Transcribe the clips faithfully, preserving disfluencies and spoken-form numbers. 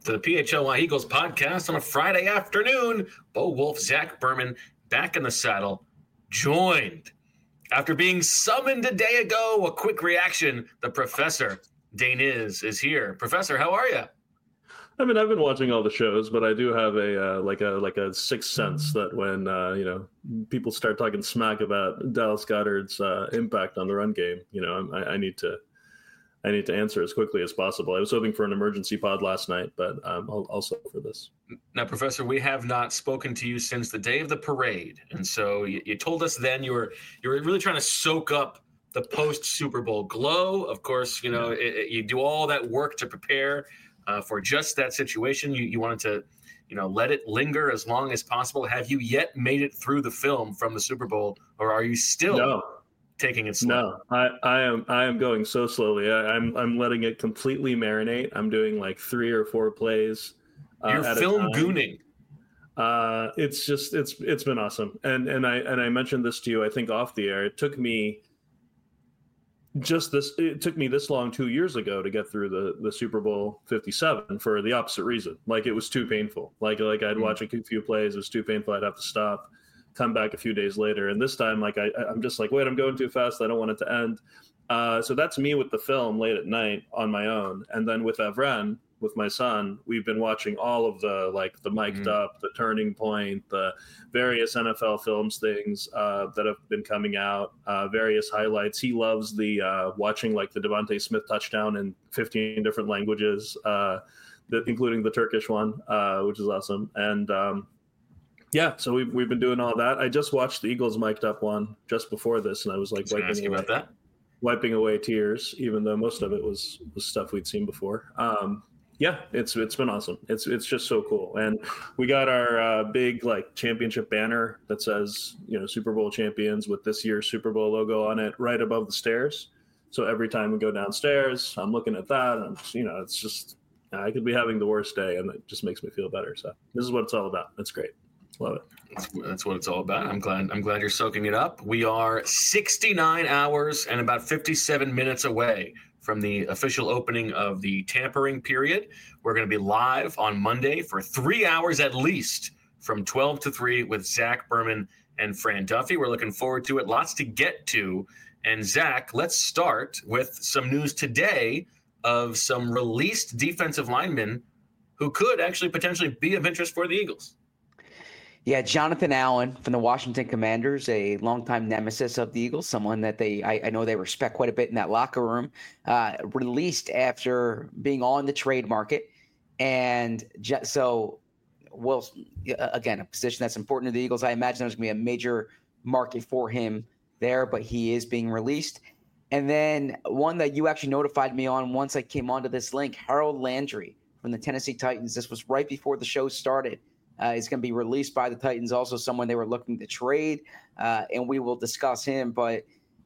to the P H L Y Eagles podcast on a Friday afternoon. Bo Wolf, Zach Berman, back in the saddle, joined after being summoned a day ago. A quick reaction. The Professor, Dane is, is here. Professor, how are you? I mean, I've been watching all the shows, but I do have a uh, like a like a sixth sense that when uh, you know people start talking smack about Dallas Goedert's uh, impact on the run game, you know, I, I need to. I need to answer as quickly as possible. I was hoping for an emergency pod last night, but um, also for this. Now, Professor, we have not spoken to you since the day of the parade, and so you, you told us then you were you were really trying to soak up the post Super Bowl glow. Of course, you know it, it, you do all that work to prepare uh, for just that situation. You you wanted to, you know, let it linger as long as possible. Have you yet made it through the film from the Super Bowl, or are you still? No. Taking it slow? No, I, I am I am going so slowly. I, I'm I'm letting it completely marinate. I'm doing like three or four plays. Uh, You're at film a time. gooning. Uh, it's just it's it's been awesome. And and I and I mentioned this to you, I think, off the air. It took me just this. It took me this long two years ago to get through the the Super Bowl fifty-seven for the opposite reason. Like it was too painful. Like like I'd mm-hmm. watch a few plays. It was too painful. I'd have to stop. Come back a few days later, and this time, like I, I'm just like, wait, I'm going too fast. I don't want it to end. Uh, so that's me with the film late at night on my own, and then with Evren, with my son, we've been watching all of the like the mic'd mm-hmm. up, the Turning Point, the various N F L films things uh, that have been coming out, uh, various highlights. He loves the uh, watching like the Devontae Smith touchdown in fifteen different languages, uh, the, including the Turkish one, uh, which is awesome, and. Um, Yeah, so we've we've been doing all that. I just watched the Eagles mic'd up one just before this, and I was like was wiping away, about that. wiping away tears, even though most of it was, was stuff we'd seen before. Um, yeah, it's it's been awesome. It's it's just so cool, and we got our uh, big like championship banner that says you know Super Bowl champions with this year's Super Bowl logo on it right above the stairs. So every time we go downstairs, I'm looking at that, and I'm just, you know it's just I could be having the worst day, and it just makes me feel better. So this is what it's all about. It's great. Love it. That's, that's what it's all about. I'm glad. I'm glad you're soaking it up. We are sixty-nine hours and about fifty-seven minutes away from the official opening of the tampering period. We're going to be live on Monday for three hours at least, from twelve to three, with Zach Berman and Fran Duffy. We're looking forward to it. Lots to get to. And Zach, let's start with some news today of some released defensive linemen who could actually potentially be of interest for the Eagles. Yeah, Jonathan Allen from the Washington Commanders, a longtime nemesis of the Eagles, someone that they I, I know they respect quite a bit in that locker room, uh, released after being on the trade market. And so, well, again, a position that's important to the Eagles. I imagine there's going to be a major market for him there, but he is being released. And then one that you actually notified me on once I came onto this link, Harold Landry from the Tennessee Titans. This was right before the show started. Uh, he's going to be released by the Titans, also someone they were looking to trade, uh, and we will discuss him. But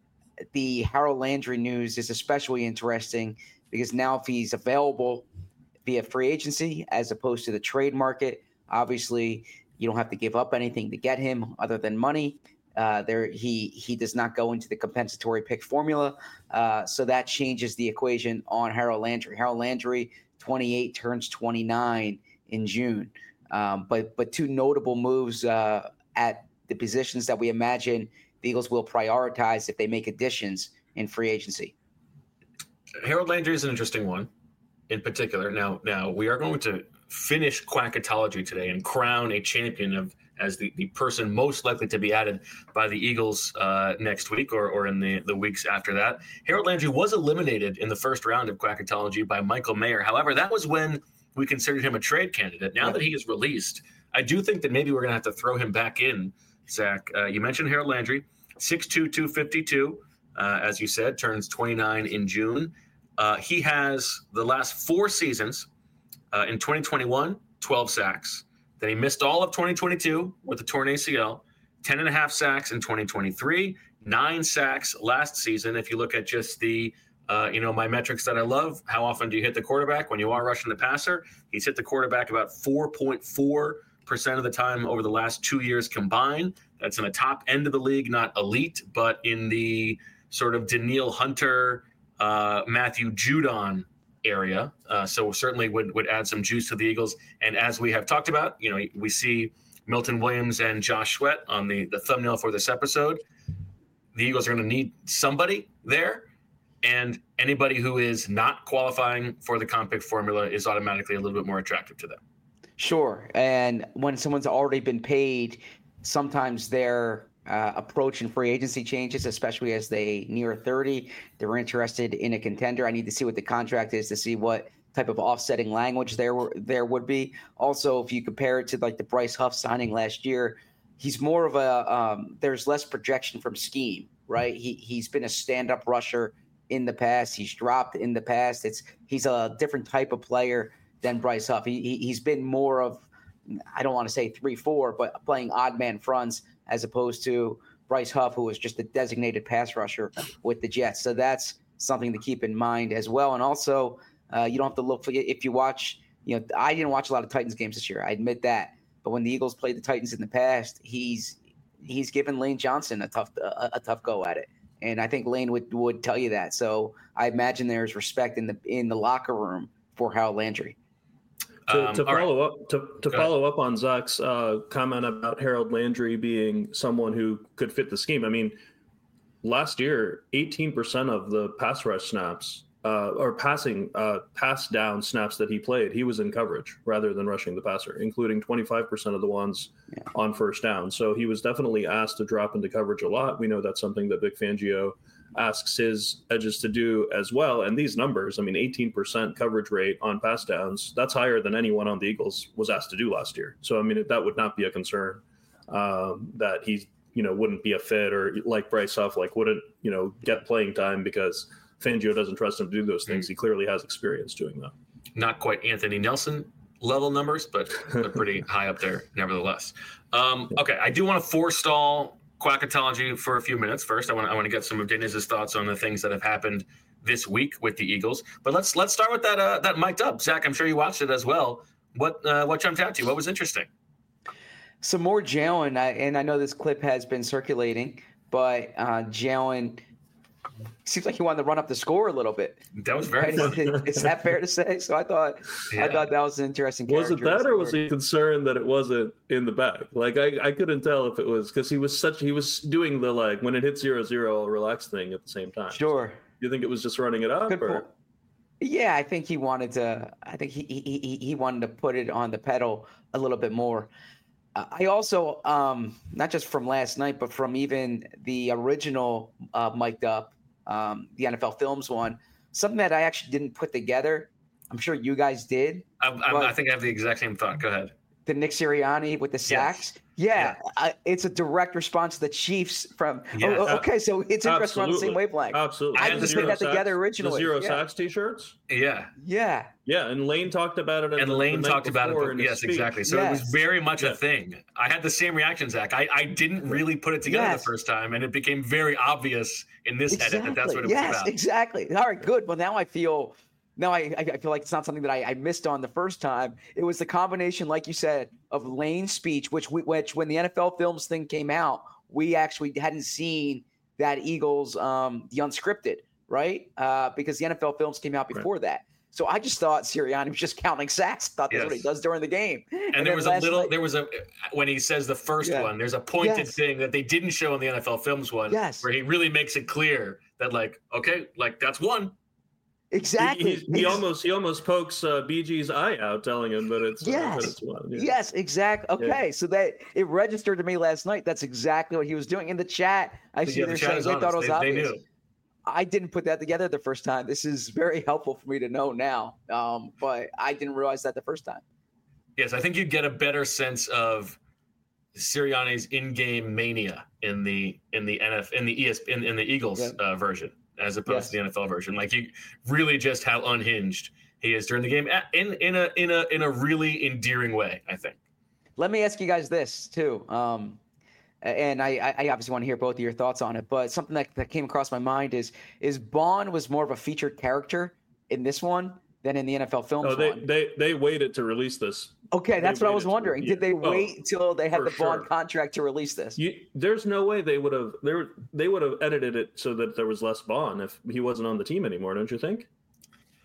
the Harold Landry news is especially interesting because now if he's available via free agency as opposed to the trade market, obviously you don't have to give up anything to get him other than money. Uh, there, he he does not go into the compensatory pick formula, uh, so that changes the equation on Harold Landry. Harold Landry, twenty-eight, turns twenty-nine in June. Um, but but two notable moves uh, at the positions that we imagine the Eagles will prioritize if they make additions in free agency. Harold Landry is an interesting one in particular. Now, now we are going to finish Quackatology today and crown a champion of as the, the person most likely to be added by the Eagles uh, next week or, or in the, the weeks after that. Harold Landry was eliminated in the first round of Quackatology by Michael Mayer. However, that was when we considered him a trade candidate. Now that he is released, I do think that maybe we're going to have to throw him back in, Zach. Uh, you mentioned Harold Landry, six two, two fifty-two, uh, as you said, turns twenty-nine in June. Uh, he has the last four seasons uh, in twenty twenty-one, twelve sacks. Then he missed all of twenty twenty-two with a torn A C L, ten and a half sacks in twenty twenty-three, nine sacks last season. If you look at just the Uh, you know, my metrics that I love, how often do you hit the quarterback when you are rushing the passer? He's hit the quarterback about four point four percent of the time over the last two years combined. That's in the top end of the league, not elite, but in the sort of Daniil Hunter, uh, Matthew Judon area. Uh, so certainly would, would add some juice to the Eagles. And as we have talked about, you know, we see Milton Williams and Josh Sweat on the, the thumbnail for this episode. The Eagles are going to need somebody there. And anybody who is not qualifying for the comp pick formula is automatically a little bit more attractive to them. Sure. And when someone's already been paid, sometimes their uh, approach in free agency changes, especially as they near thirty. They're interested in a contender. I need to see what the contract is to see what type of offsetting language there there would be. Also, if you compare it to like the Bryce Huff signing last year, he's more of a um, there's less projection from scheme, right? He he's been a stand-up rusher in the past. He's dropped in the past. It's he's a different type of player than Bryce Huff. He, he he's been more of, I don't want to say three four, but playing odd man fronts as opposed to Bryce Huff, who was just a designated pass rusher with the Jets. So that's something to keep in mind as well. And also, uh, you don't have to look for if you watch. You know, I didn't watch a lot of Titans games this year. I admit that. But when the Eagles played the Titans in the past, he's he's given Lane Johnson a tough a, a tough go at it. And I think Lane would, would tell you that. So I imagine there's respect in the in the locker room for Harold Landry. To, Um, to all follow right. up to, to Go follow up on Zach's uh, comment about Harold Landry being someone who could fit the scheme. I mean, last year, eighteen percent of the pass rush snaps uh, or passing uh, pass down snaps that he played, he was in coverage rather than rushing the passer, including twenty-five percent of the ones Yeah. on first down. So he was definitely asked to drop into coverage a lot. We know that's something that Vic Fangio asks his edges to do as well. And these numbers, I mean, eighteen percent coverage rate on pass downs, that's higher than anyone on the Eagles was asked to do last year. So, I mean, that would not be a concern um, that he, you know, wouldn't be a fit or like Bryce Huff, like wouldn't, you know, get playing time because Fangio doesn't trust him to do those things. He clearly has experience doing that. Not quite Anthony Nelson level numbers, but they're pretty high up there nevertheless. Um, okay, I do want to forestall Quackatology for a few minutes. First, I want to, I want to get some of Deniz's thoughts on the things that have happened this week with the Eagles. But let's let's start with that uh, that mic'd up. Zach, I'm sure you watched it as well. What uh, what jumped out to you? What was interesting? Some more Jalen, I- and I know this clip has been circulating, but uh, Jalen seems like he wanted to run up the score a little bit. That was very Right? funny. Is that fair to say? So I thought Yeah. I thought that was an interesting. Was it character in that, the or was story. he concerned that it wasn't in the bag? Like I, I couldn't tell if it was because he was such he was doing the like when it hits zero zero, I'll relax thing at the same time. Sure. Do you think it was just running it up? Good Or? point. Yeah, I think he wanted to. I think he he he, he wanted to put it on the pedal a little bit more. Uh, I also, um, not just from last night, but from even the original uh, mic'd up, um, the N F L Films one, something that I actually didn't put together. I'm sure you guys did. I, I, But- I think I have the exact same thought. Go ahead. The Nick Sirianni with the sacks. Yeah, I, it's a direct response to the Chiefs from. Yes. Oh, okay, so it's interesting on the same Absolutely. wavelength. Absolutely. I And just the put that zero together sacks- originally. The zero yeah. sacks t-shirts. Yeah, Yeah. Yeah, and Lane talked about it. At and the, Lane the night talked about before it. in But his yes, speech. exactly. So it was Yes. very much Yeah. a thing. I had the same reaction, Zach. I, I didn't really put it together Yes. the first time, and it became very obvious in this edit that that's what it yes, was about. exactly. All right, good. Well, now I feel now I, I feel like it's not something that I, I missed on the first time. It was the combination, like you said, of Lane's speech, which we, which when the N F L Films thing came out, we actually hadn't seen that Eagles um, the unscripted, right? Uh, because the N F L Films came out before that. So I just thought Sirianni was just counting sacks. Thought that's what he Yes. does during the game. And, then there was a last little, night- there was a, when he says the first Yeah. one, there's a pointed Yes. thing that they didn't show in the N F L Films one, Yes. where he really makes it clear that, like, okay, like that's one. exactly. He, he, he Ex- almost he almost pokes uh, B G's eye out, telling him that it's uh, Yes. that it's one. Yeah. Yes, exactly. Okay, so that it registered to me last night. That's exactly what he was doing in the chat. I see Yeah, the they're chat saying is they honest. thought it was They- they obvious. knew. I didn't put that together the first time. This is very helpful for me to know now, um, but I didn't realize that the first time. Yes, I think you get a better sense of Sirianni's in-game mania in the in the N F in the E S in, in the Eagles Yeah. uh, version as opposed Yes. to the N F L version. Like you really just how unhinged he is during the game a- in in a in a in a really endearing way. I think. Let me ask you guys this too, um, and I, I obviously want to hear both of your thoughts on it. But something that, that came across my mind is is Bond was more of a featured character in this one than in the N F L Films Oh, they, one. they they waited to release this. Okay, that's they what I was waited to- wondering. yeah. Did they Oh, wait until they had for the Bond sure. contract to release this? You, there's no way they would have they were, they would have edited it so that there was less Bond if he wasn't on the team anymore. Don't you think?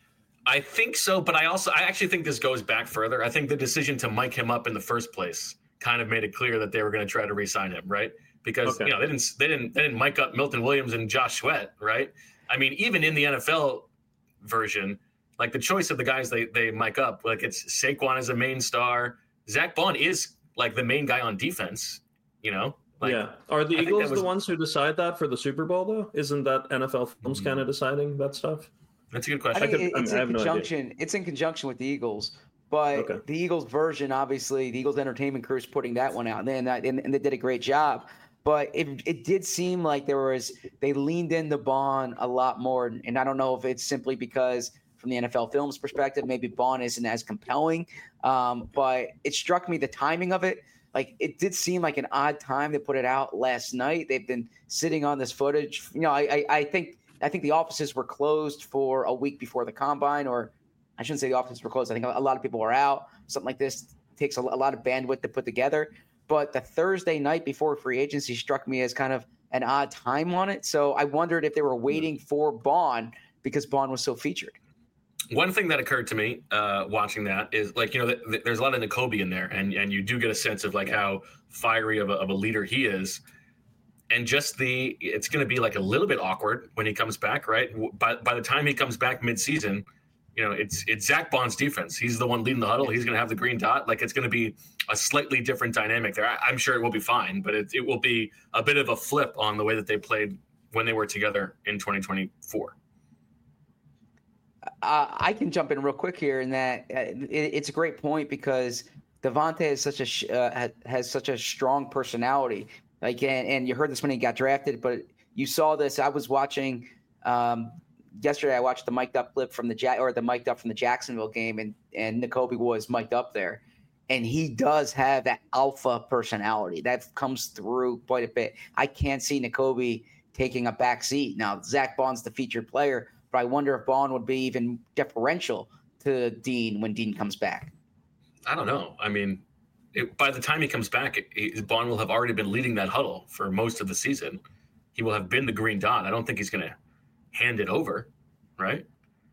I think so, but I also I actually think this goes back further. I think the decision to mic him up in the first place kind of made it clear that they were going to try to re-sign him, right? Because okay. you know they didn't they didn't they didn't mic up Milton Williams and Josh Sweat, right? I mean, even in the N F L version, like the choice of the guys they they mic up, like it's Saquon as a main star, Zach Bond is like the main guy on defense, you know. Like, yeah, are the I Eagles was, the ones who decide that for the Super Bowl though? Isn't that N F L Films mm-hmm. kind of deciding that stuff? That's a good question. I think I could, it, it's I mean, in I conjunction. No it's in conjunction with the Eagles, but okay. the Eagles version, obviously, the Eagles entertainment crew is putting that one out, and then and, and they did a great job. But it it did seem like there was they leaned into Bond a lot more, and I don't know if it's simply because from the N F L Films perspective, maybe Bond isn't as compelling. Um, but it struck me the timing of it. Like it did seem like an odd time to put it out last night. They've been sitting on this footage. You know, I, I, I think I think the offices were closed for a week before the combine, or I shouldn't say the offices were closed. I think a lot of people were out. Something like this takes a, a lot of bandwidth to put together. But the Thursday night before free agency struck me as kind of an odd time on it. So I wondered if they were waiting for Bond because Bond was so featured. One thing that occurred to me uh, watching that is like, you know, th- th- there's a lot of Nakobe in there, and, and you do get a sense of like how fiery of a, of a leader he is. And just the, it's going to be like a little bit awkward when he comes back, right? By, by the time he comes back mid-season, you know, it's it's Zach Bond's defense. He's the one leading the huddle. He's going to have the green dot. Like it's going to be a slightly different dynamic there. I, I'm sure it will be fine, but it, it will be a bit of a flip on the way that they played when they were together in twenty twenty-four. Uh, I can jump in real quick here in that uh, it, it's a great point because Devontae has such a sh- uh, has such a strong personality. Like, and, and you heard this when he got drafted, but you saw this. I was watching um, yesterday. I watched the mic'd up clip from the ja- or the mic'd up from the Jacksonville game, and and Nakobe was mic'd up there, and he does have that alpha personality that comes through quite a bit. I can't see Nakobe taking a back seat. Now, Zach Bond's the featured player, but I wonder if Bond would be even deferential to Dean when Dean comes back. I don't know. I mean, it, by the time he comes back, it, it, Bond will have already been leading that huddle for most of the season. He will have been the green dot. I don't think he's going to hand it over, right?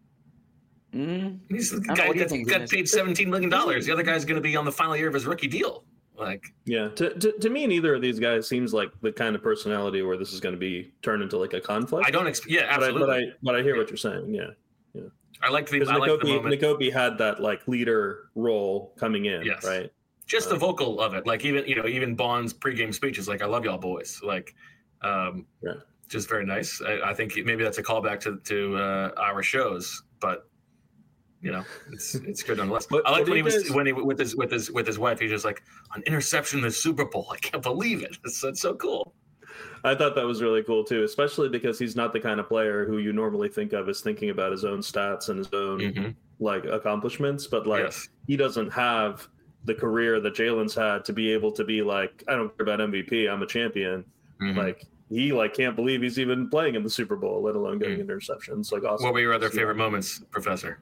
Mm, he's the guy that got paid seventeen million dollars. The other guy's going to be on the final year of his rookie deal. Like, yeah, to, to to me, neither of these guys seems like the kind of personality where this is going to be turned into like a conflict. I don't. Exp- yeah, absolutely. But I, but I, but I hear yeah. what you're saying. Yeah, yeah. I like the. I Nakobe, like the moment. Nakobe had that like leader role coming in, yes. right? Just uh, the vocal of it, like even you know even Bond's pregame speech is like, "I love y'all boys," like, um, yeah. just very nice. I, I think maybe that's a callback to to uh, our shows, but. You know, it's it's good nonetheless. But, I like when he was guys, when he with his with his with his wife. He's just like an interception in the Super Bowl. I can't believe it. It's, it's so cool. I thought that was really cool too, especially because he's not the kind of player who you normally think of as thinking about his own stats and his own mm-hmm. like accomplishments. But like yes. he doesn't have the career that Jalen's had to be able to be like, I don't care about M V P. I'm a champion. Mm-hmm. Like he like can't believe he's even playing in the Super Bowl, let alone getting mm-hmm. interceptions. Like awesome. What were your other favorite moments, Professor?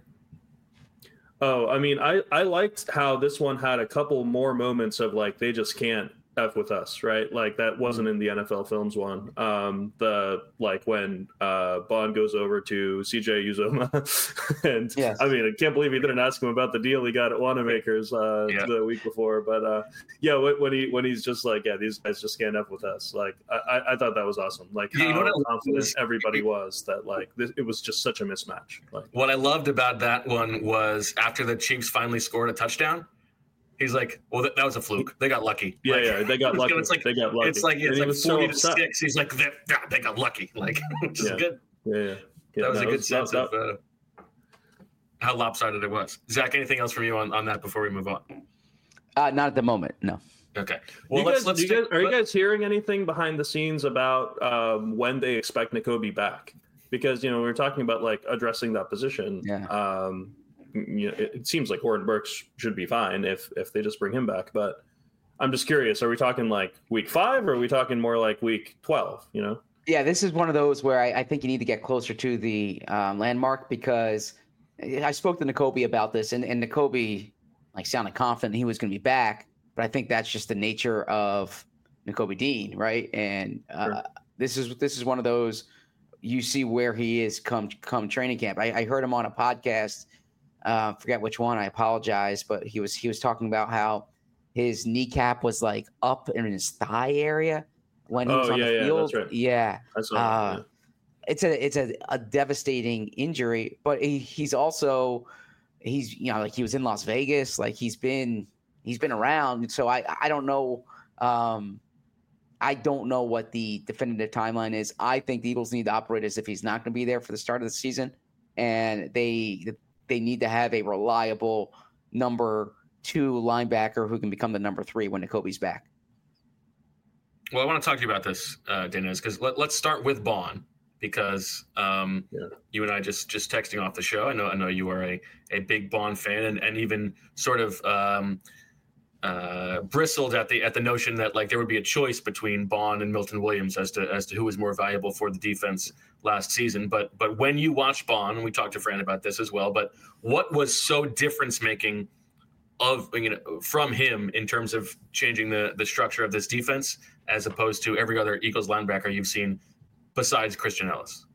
Oh, I mean, I, I liked how this one had a couple more moments of like, they just can't F with us, right? Like that wasn't in the N F L Films one. Um, the like when uh, Bond goes over to C J Uzomah, and yes. I mean, I can't believe he didn't ask him about the deal he got at Wanamaker's uh, yeah. the week before. But uh, yeah, when, when he when he's just like, yeah, these guys just can't F with us. Like I, I thought that was awesome. Like how yeah, you know confident was, everybody was that like this, it was just such a mismatch. Like what I loved about that one was after the Chiefs finally scored a touchdown. He's like, well, that, that was a fluke. They got lucky. Yeah, like, yeah, they got lucky. It's like, they got lucky. It's like it's and like forty so to six. He's like, they, they got lucky. Like, which is yeah. good. Yeah, yeah. yeah that was no, a good was, sense that, of uh, how lopsided it was. Zach, anything else from you on, on that before we move on? Uh, not at the moment. No. Okay. Well, you let's guys, let's. You stick, guys, are let, you guys hearing anything behind the scenes about um, when they expect Nakobe back? Because you know we were talking about like addressing that position. Yeah. Um, You know, it, it seems like Horton Burks should be fine if if they just bring him back. But I'm just curious: are we talking like week five, or are we talking more like week twelve? You know? Yeah, this is one of those where I, I think you need to get closer to the um, landmark because I spoke to Nakobe about this, and and Nakobe like sounded confident he was going to be back, but I think that's just the nature of Nakobe Dean, right? And uh, sure. this is this is one of those you see where he is come come training camp. I, I heard him on a podcast. Uh, forget which one. I apologize, but he was he was talking about how his kneecap was like up in his thigh area when he was Oh, on yeah, the yeah, field. that's right. Yeah, I saw uh, that, yeah. it's a it's a, a devastating injury. But he, he's also he's you know like he was in Las Vegas. Like he's been he's been around. So I I don't know. Um, I don't know what the definitive timeline is. I think the Eagles need to operate as if he's not going to be there for the start of the season, and they they need to have a reliable number two linebacker who can become the number three when Nakobe's back. Well, I want to talk to you about this, uh, Dennis, because let, let's start with Bond, because um, Yeah. you and I just just texting off the show. I know I know you are a, a big Bond fan, and, and even sort of um, uh, bristled at the at the notion that like there would be a choice between Bond and Milton Williams as to as to who was more valuable for the defense last season. But but when you watch Bond, and we talked to Fran about this as well, but what was so difference making of you know from him in terms of changing the the structure of this defense as opposed to every other Eagles linebacker you've seen besides Christian Ellis?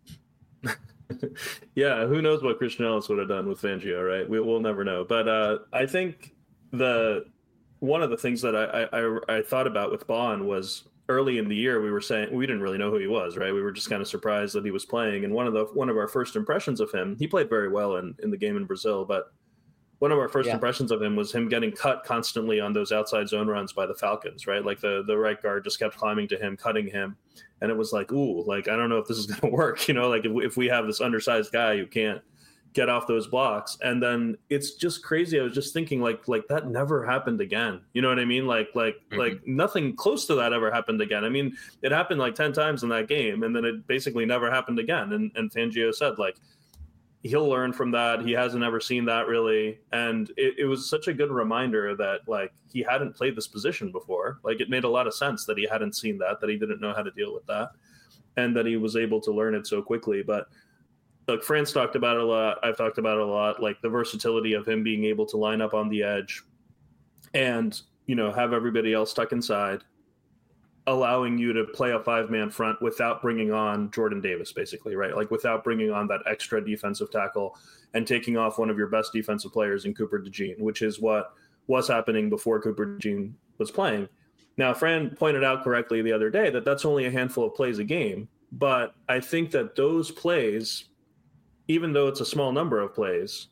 Yeah, who knows what Christian Ellis would have done with Fangio, right? We, we'll never know. But uh, I think the one of the things that I, I, I thought about with Bond was early in the year we were saying we didn't really know who he was, right? We were just kind of surprised that he was playing. And one of the one of our first impressions of him, he played very well in, in the game in Brazil, but one of our first Yeah. impressions of him was him getting cut constantly on those outside zone runs by the Falcons, right? Like the, the right guard just kept climbing to him, cutting him. And it was like, ooh, like, I don't know if this is going to work. You know, like if, if we have this undersized guy who can't get off those blocks. And then it's just crazy. I was just thinking like, like that never happened again. You know what I mean? Like, like, Mhm. like nothing close to that ever happened again. I mean, it happened like ten times in that game, and then it basically never happened again. And, and Fangio said like, he'll learn from that. He hasn't ever seen that really. And it, it was such a good reminder that like he hadn't played this position before. Like it made a lot of sense that he hadn't seen that, that he didn't know how to deal with that, and that he was able to learn it so quickly. But look, Fran's talked about it a lot. I've talked about it a lot, like the versatility of him being able to line up on the edge and, you know, have everybody else stuck inside, allowing you to play a five-man front without bringing on Jordan Davis, basically, right? Like without bringing on that extra defensive tackle and taking off one of your best defensive players in Cooper DeJean, which is what was happening before Cooper DeJean was playing. Now, Fran pointed out correctly the other day that that's only a handful of plays a game, but I think that those plays, even though it's a small number of plays,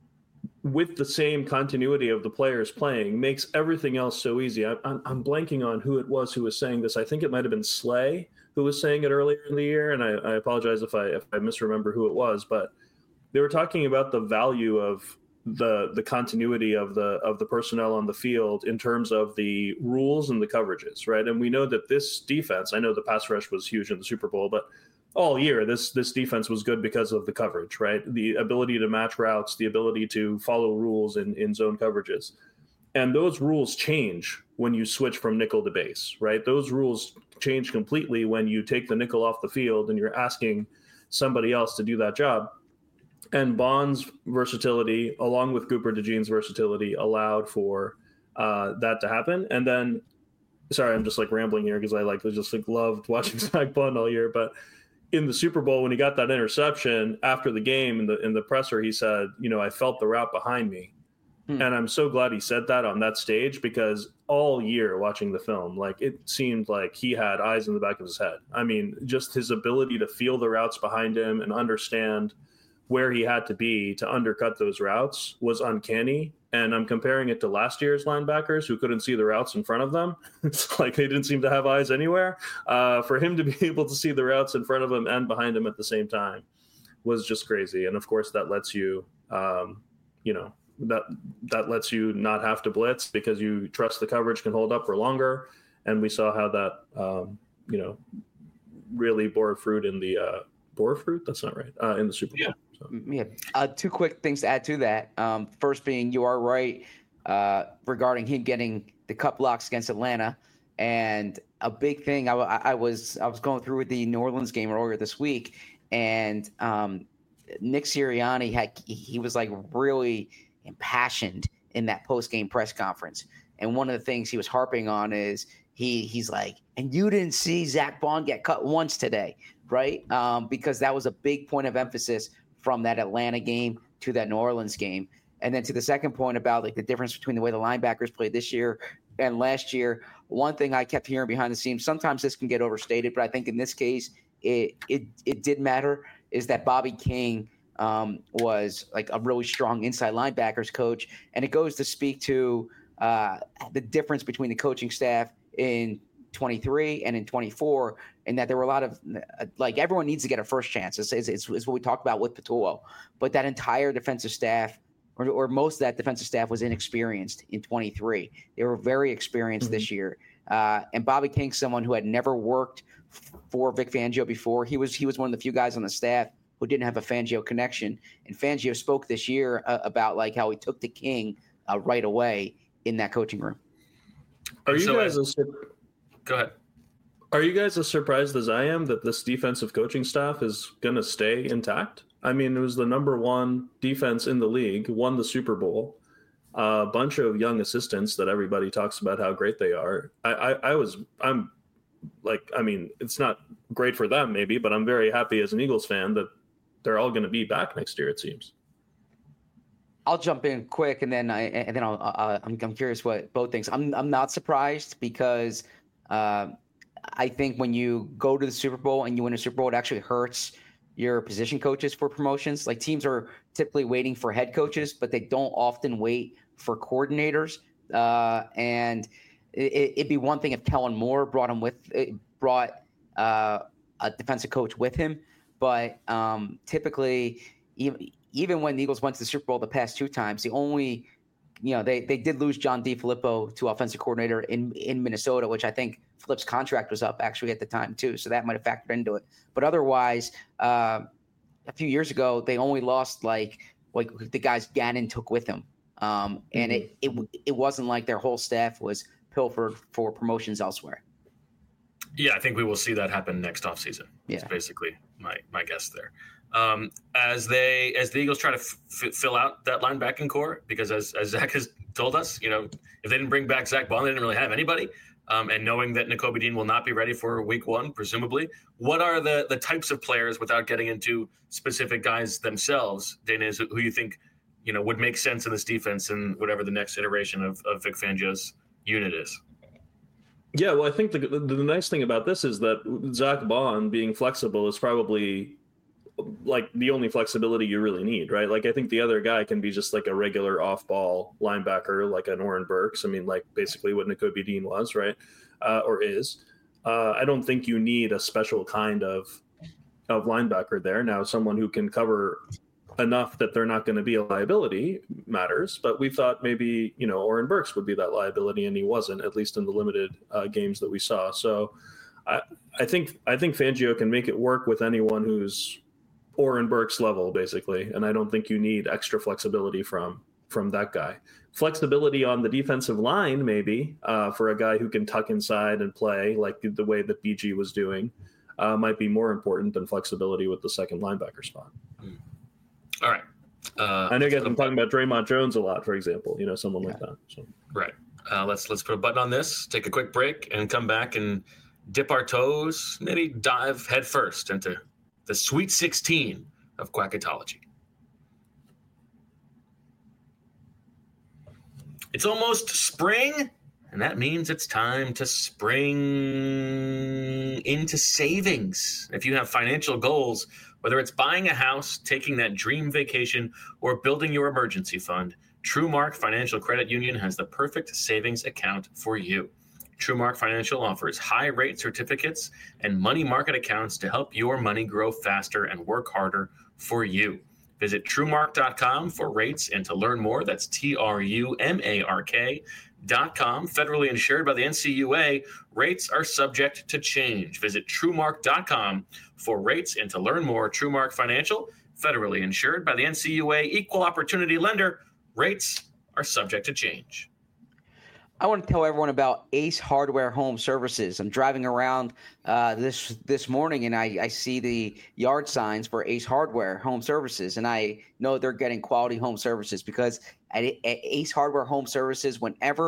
with the same continuity of the players playing, makes everything else so easy. I, I'm, I'm blanking on who it was who was saying this. I think it might have been Slay who was saying it earlier in the year, and I, I apologize if I if I misremember who it was, but they were talking about the value of the the continuity of the of the personnel on the field in terms of the rules and the coverages, right? And we know that this defense, I know the pass rush was huge in the Super Bowl, but all year, this this defense was good because of the coverage, right? The ability to match routes, the ability to follow rules in, in zone coverages. And those rules change when you switch from nickel to base, right? Those rules change completely when you take the nickel off the field and you're asking somebody else to do that job. And Bond's versatility, along with Cooper DeJean's versatility, allowed for uh, that to happen. And then, sorry, I'm just like rambling here because I like just like loved watching Zach Bond all year, but in the Super Bowl, when he got that interception after the game in the in the presser, he said, you know, I felt the route behind me. Hmm. And I'm so glad he said that on that stage, because all year watching the film, like it seemed like he had eyes in the back of his head. I mean, just his ability to feel the routes behind him and understand where he had to be to undercut those routes was uncanny. And I'm comparing it to last year's linebackers who couldn't see the routes in front of them. It's like they didn't seem to have eyes anywhere. Uh, for him to be able to see the routes in front of him and behind him at the same time was just crazy. And of course, that lets you, um, you know, that that lets you not have to blitz because you trust the coverage can hold up for longer. And we saw how that, um, you know, really bore fruit in the uh, bore fruit. That's not right. Uh, in the Super Bowl. Yeah. So. Yeah. Uh, two quick things to add to that. Um, first being, you are right uh, regarding him getting the cut blocks against Atlanta. And a big thing, I, I was I was going through with the New Orleans game earlier this week, and um, Nick Sirianni had he was like really impassioned in that post-game press conference. And one of the things he was harping on is he he's like, and you didn't see Zach Bond get cut once today, right? Um, because that was a big point of emphasis from that Atlanta game to that New Orleans game. And then to the second point about like the difference between the way the linebackers played this year and last year, one thing I kept hearing behind the scenes, sometimes this can get overstated, but I think in this case it it it did matter, is that Bobby King um, was like a really strong inside linebackers coach. And it goes to speak to uh, the difference between the coaching staff in twenty-three and in twenty-four, and that there were a lot of like everyone needs to get a first chance. It's, it's, it's what we talked about with Patullo, but that entire defensive staff or, or most of that defensive staff was inexperienced in twenty-three. They were very experienced mm-hmm. this year. Uh, and Bobby King, someone who had never worked for Vic Fangio before, he was, he was one of the few guys on the staff who didn't have a Fangio connection. And Fangio spoke this year uh, about like how he took to King uh, right away in that coaching room. Are you so guys? I, a, go ahead. Are you guys as surprised as I am that this defensive coaching staff is going to stay intact? I mean, it was the number one defense in the league, won the Super Bowl, a uh, bunch of young assistants that everybody talks about how great they are. I, I, I was, I'm like, I mean, it's not great for them maybe, but I'm very happy as an Eagles fan that they're all going to be back next year, it seems. I'll jump in quick, and then I and then I'll, uh, I'm I'm curious what both things. I'm I'm not surprised because uh, I think when you go to the Super Bowl and you win a Super Bowl, it actually hurts your position coaches for promotions. Like teams are typically waiting for head coaches, but they don't often wait for coordinators. Uh, and it, it'd be one thing if Kellen Moore brought him with brought uh, a defensive coach with him, but um, typically even. Even when the Eagles went to the Super Bowl the past two times, the only, you know, they, they did lose John DeFilippo to offensive coordinator in, in Minnesota, which I think Flip's contract was up actually at the time too. So that might have factored into it. But otherwise, uh, a few years ago, they only lost like, like the guys Gannon took with him. Um, and mm-hmm. it, it, it wasn't like their whole staff was pilfered for promotions elsewhere. Yeah, I think we will see that happen next offseason. Yeah. That's basically my, my guess there. Um, as they as the Eagles try to f- fill out that linebacking core, because as, as Zach has told us, you know, if they didn't bring back Zach Bond, they didn't really have anybody. Um, and knowing that Nakobe Dean will not be ready for week one, presumably, what are the the types of players, without getting into specific guys themselves, Dana, is who you think, you know, would make sense in this defense and whatever the next iteration of, of Vic Fangio's unit is? Yeah, well, I think the the nice thing about this is that Zach Bond being flexible is probably like the only flexibility you really need, right? Like I think the other guy can be just like a regular off-ball linebacker, like an Oren Burks. I mean, like basically what Nakobe Dean was, right? Uh, or is. Uh, I don't think you need a special kind of of linebacker there. Now, someone who can cover enough that they're not going to be a liability matters, but we thought maybe, you know, Oren Burks would be that liability, and he wasn't, at least in the limited uh, games that we saw. So I, I think I think Fangio can make it work with anyone who's Oren Burks level, basically, and I don't think you need extra flexibility from from that guy. Flexibility on the defensive line, maybe, uh, for a guy who can tuck inside and play like the way that B G was doing, uh, might be more important than flexibility with the second linebacker spot. All right. Uh, I know you guys have been talking about Draymond Jones a lot, for example, you know, someone yeah. like that. So. Right. Uh, let's let's put a button on this, take a quick break, and come back and dip our toes, maybe dive head first into the Sweet sixteen of Quackatology. It's almost spring, and that means it's time to spring into savings. If you have financial goals, whether it's buying a house, taking that dream vacation, or building your emergency fund, TrueMark Financial Credit Union has the perfect savings account for you. TrueMark Financial offers high-rate certificates and money market accounts to help your money grow faster and work harder for you. Visit TrueMark dot com for rates and to learn more. That's T R U M A R K dot com. Federally insured by the N C U A. Rates are subject to change. Visit TrueMark dot com for rates and to learn more. TrueMark Financial, federally insured by the N C U A. Equal opportunity lender. Rates are subject to change. I want to tell everyone about Ace Hardware Home Services. I'm driving around uh, this this morning, and I, I see the yard signs for Ace Hardware Home Services, and I know they're getting quality home services because at, at Ace Hardware Home Services, whenever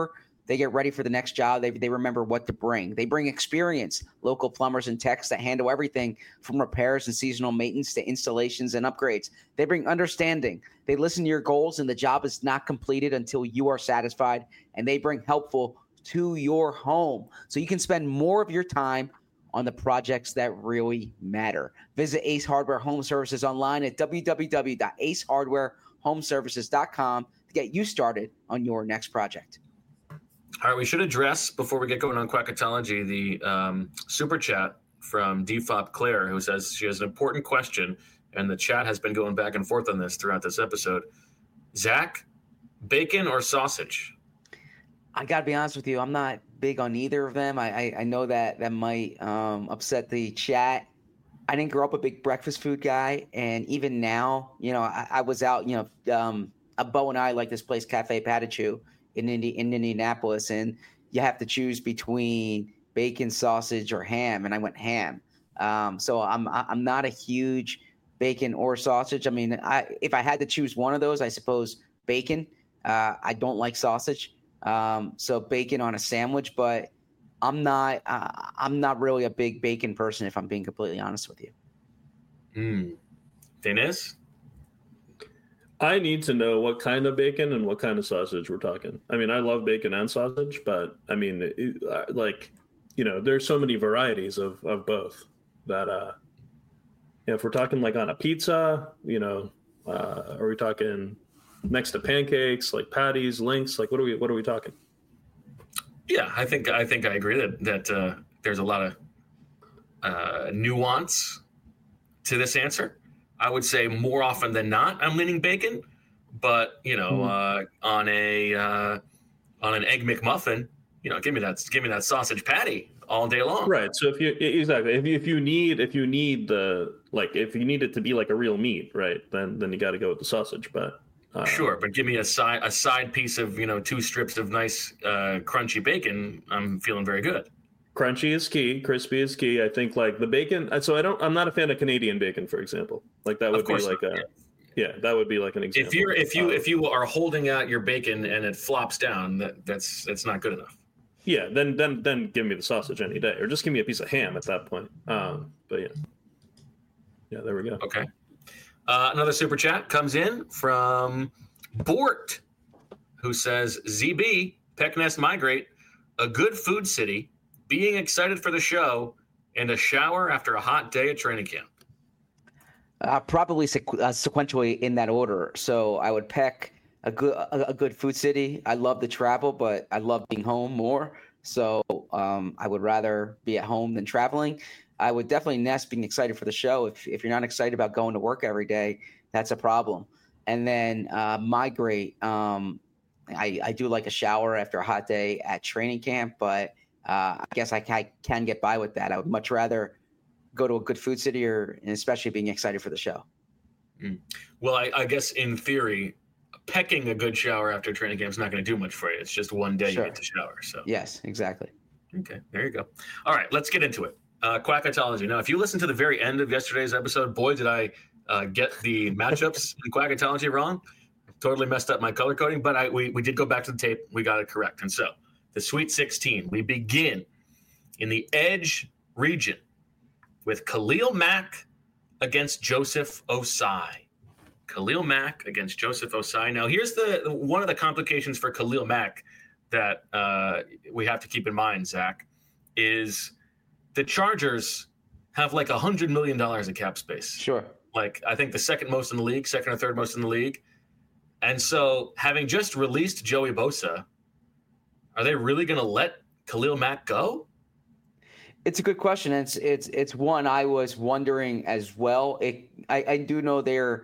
They get ready for the next job. They, they remember what to bring. They bring experience, local plumbers and techs that handle everything from repairs and seasonal maintenance to installations and upgrades. They bring understanding. They listen to your goals, and the job is not completed until you are satisfied, and they bring helpful to your home. So you can spend more of your time on the projects that really matter. Visit Ace Hardware Home Services online at w w w dot ace hardware home services dot com to get you started on your next project. All right, we should address, before we get going on Quackatology, the um, super chat from D F O P Claire, who says she has an important question, and the chat has been going back and forth on this throughout this episode. Zach, bacon or sausage? I got to be honest with you, I'm not big on either of them. I, I, I know that that might um, upset the chat. I didn't grow up a big breakfast food guy, and even now, you know, I, I was out, you know, um, Bo and I like this place, Cafe Patachu, in Indi- in Indianapolis, and you have to choose between bacon, sausage, or ham, and I went ham. Um, so I'm I'm not a huge bacon or sausage. I mean, I if I had to choose one of those, I suppose bacon. Uh, I don't like sausage, um, so bacon on a sandwich. But I'm not uh, I'm not really a big bacon person, if I'm being completely honest with you. Hmm. Dennis? I need to know what kind of bacon and what kind of sausage we're talking. I mean, I love bacon and sausage, but I mean, it, uh, like, you know, there's so many varieties of, of both that, uh, if we're talking like on a pizza, you know, uh, are we talking next to pancakes, like patties, links? Like, what are we, what are we talking? Yeah, I think, I think I agree that, that uh, there's a lot of uh, nuance to this answer. I would say more often than not, I'm leaning bacon, but you know, mm. uh, on a uh, on an egg McMuffin, you know, give me that, give me that sausage patty all day long. Right. So if you exactly if you, if you need if you need the like if you need it to be like a real meat, right, then then you got to go with the sausage. But uh, sure, but give me a side a side piece of, you know, two strips of nice uh, crunchy bacon. I'm feeling very good. Crunchy is key. Crispy is key. I think like the bacon. So I don't. I'm not a fan of Canadian bacon, for example. Like that would be like a. Yeah, that would be like an example. If you're if you um, if you are holding out your bacon and it flops down, that that's that's not good enough. Yeah, then then then give me the sausage any day, or just give me a piece of ham at that point. Um, but yeah, yeah, there we go. Okay. Uh, another super chat comes in from Bort, who says, Z B Pecknest Migrate, a good food city, being excited for the show, and a shower after a hot day at training camp. Uh, probably sequ- uh, sequentially in that order. So I would Peck a good a, a good food city. I love the travel, but I love being home more. So um, I would rather be at home than traveling. I would definitely Nest being excited for the show. If if you're not excited about going to work every day, that's a problem. And then uh, Migrate. Um, I, I do like a shower after a hot day at training camp, but uh, I guess I can, can get by with that. I would much rather go to a good food city, or and especially being excited for the show. Mm. Well, I, I guess in theory, pecking a good shower after training camp is not going to do much for you. It's just one day sure. you get to shower. So yes, exactly. Okay, there you go. All right, let's get into it. Uh, Quackatology. Now, if you listen to the very end of yesterday's episode, boy, did I uh, get the matchups in Quackatology wrong. Totally messed up my color coding, but I we, we did go back to the tape. We got it correct. And so the Sweet sixteen, we begin in the Edge region with Khalil Mack against Joseph Osai. Khalil Mack against Joseph Osai. Now, here's the one of the complications for Khalil Mack that uh, we have to keep in mind, Zach, is the Chargers have like one hundred million dollars in cap space. Sure. Like, I think the second most in the league, second or third most in the league. And so having just released Joey Bosa, are they really going to let Khalil Mack go? It's a good question. It's it's it's one I was wondering as well. It, I, I do know they're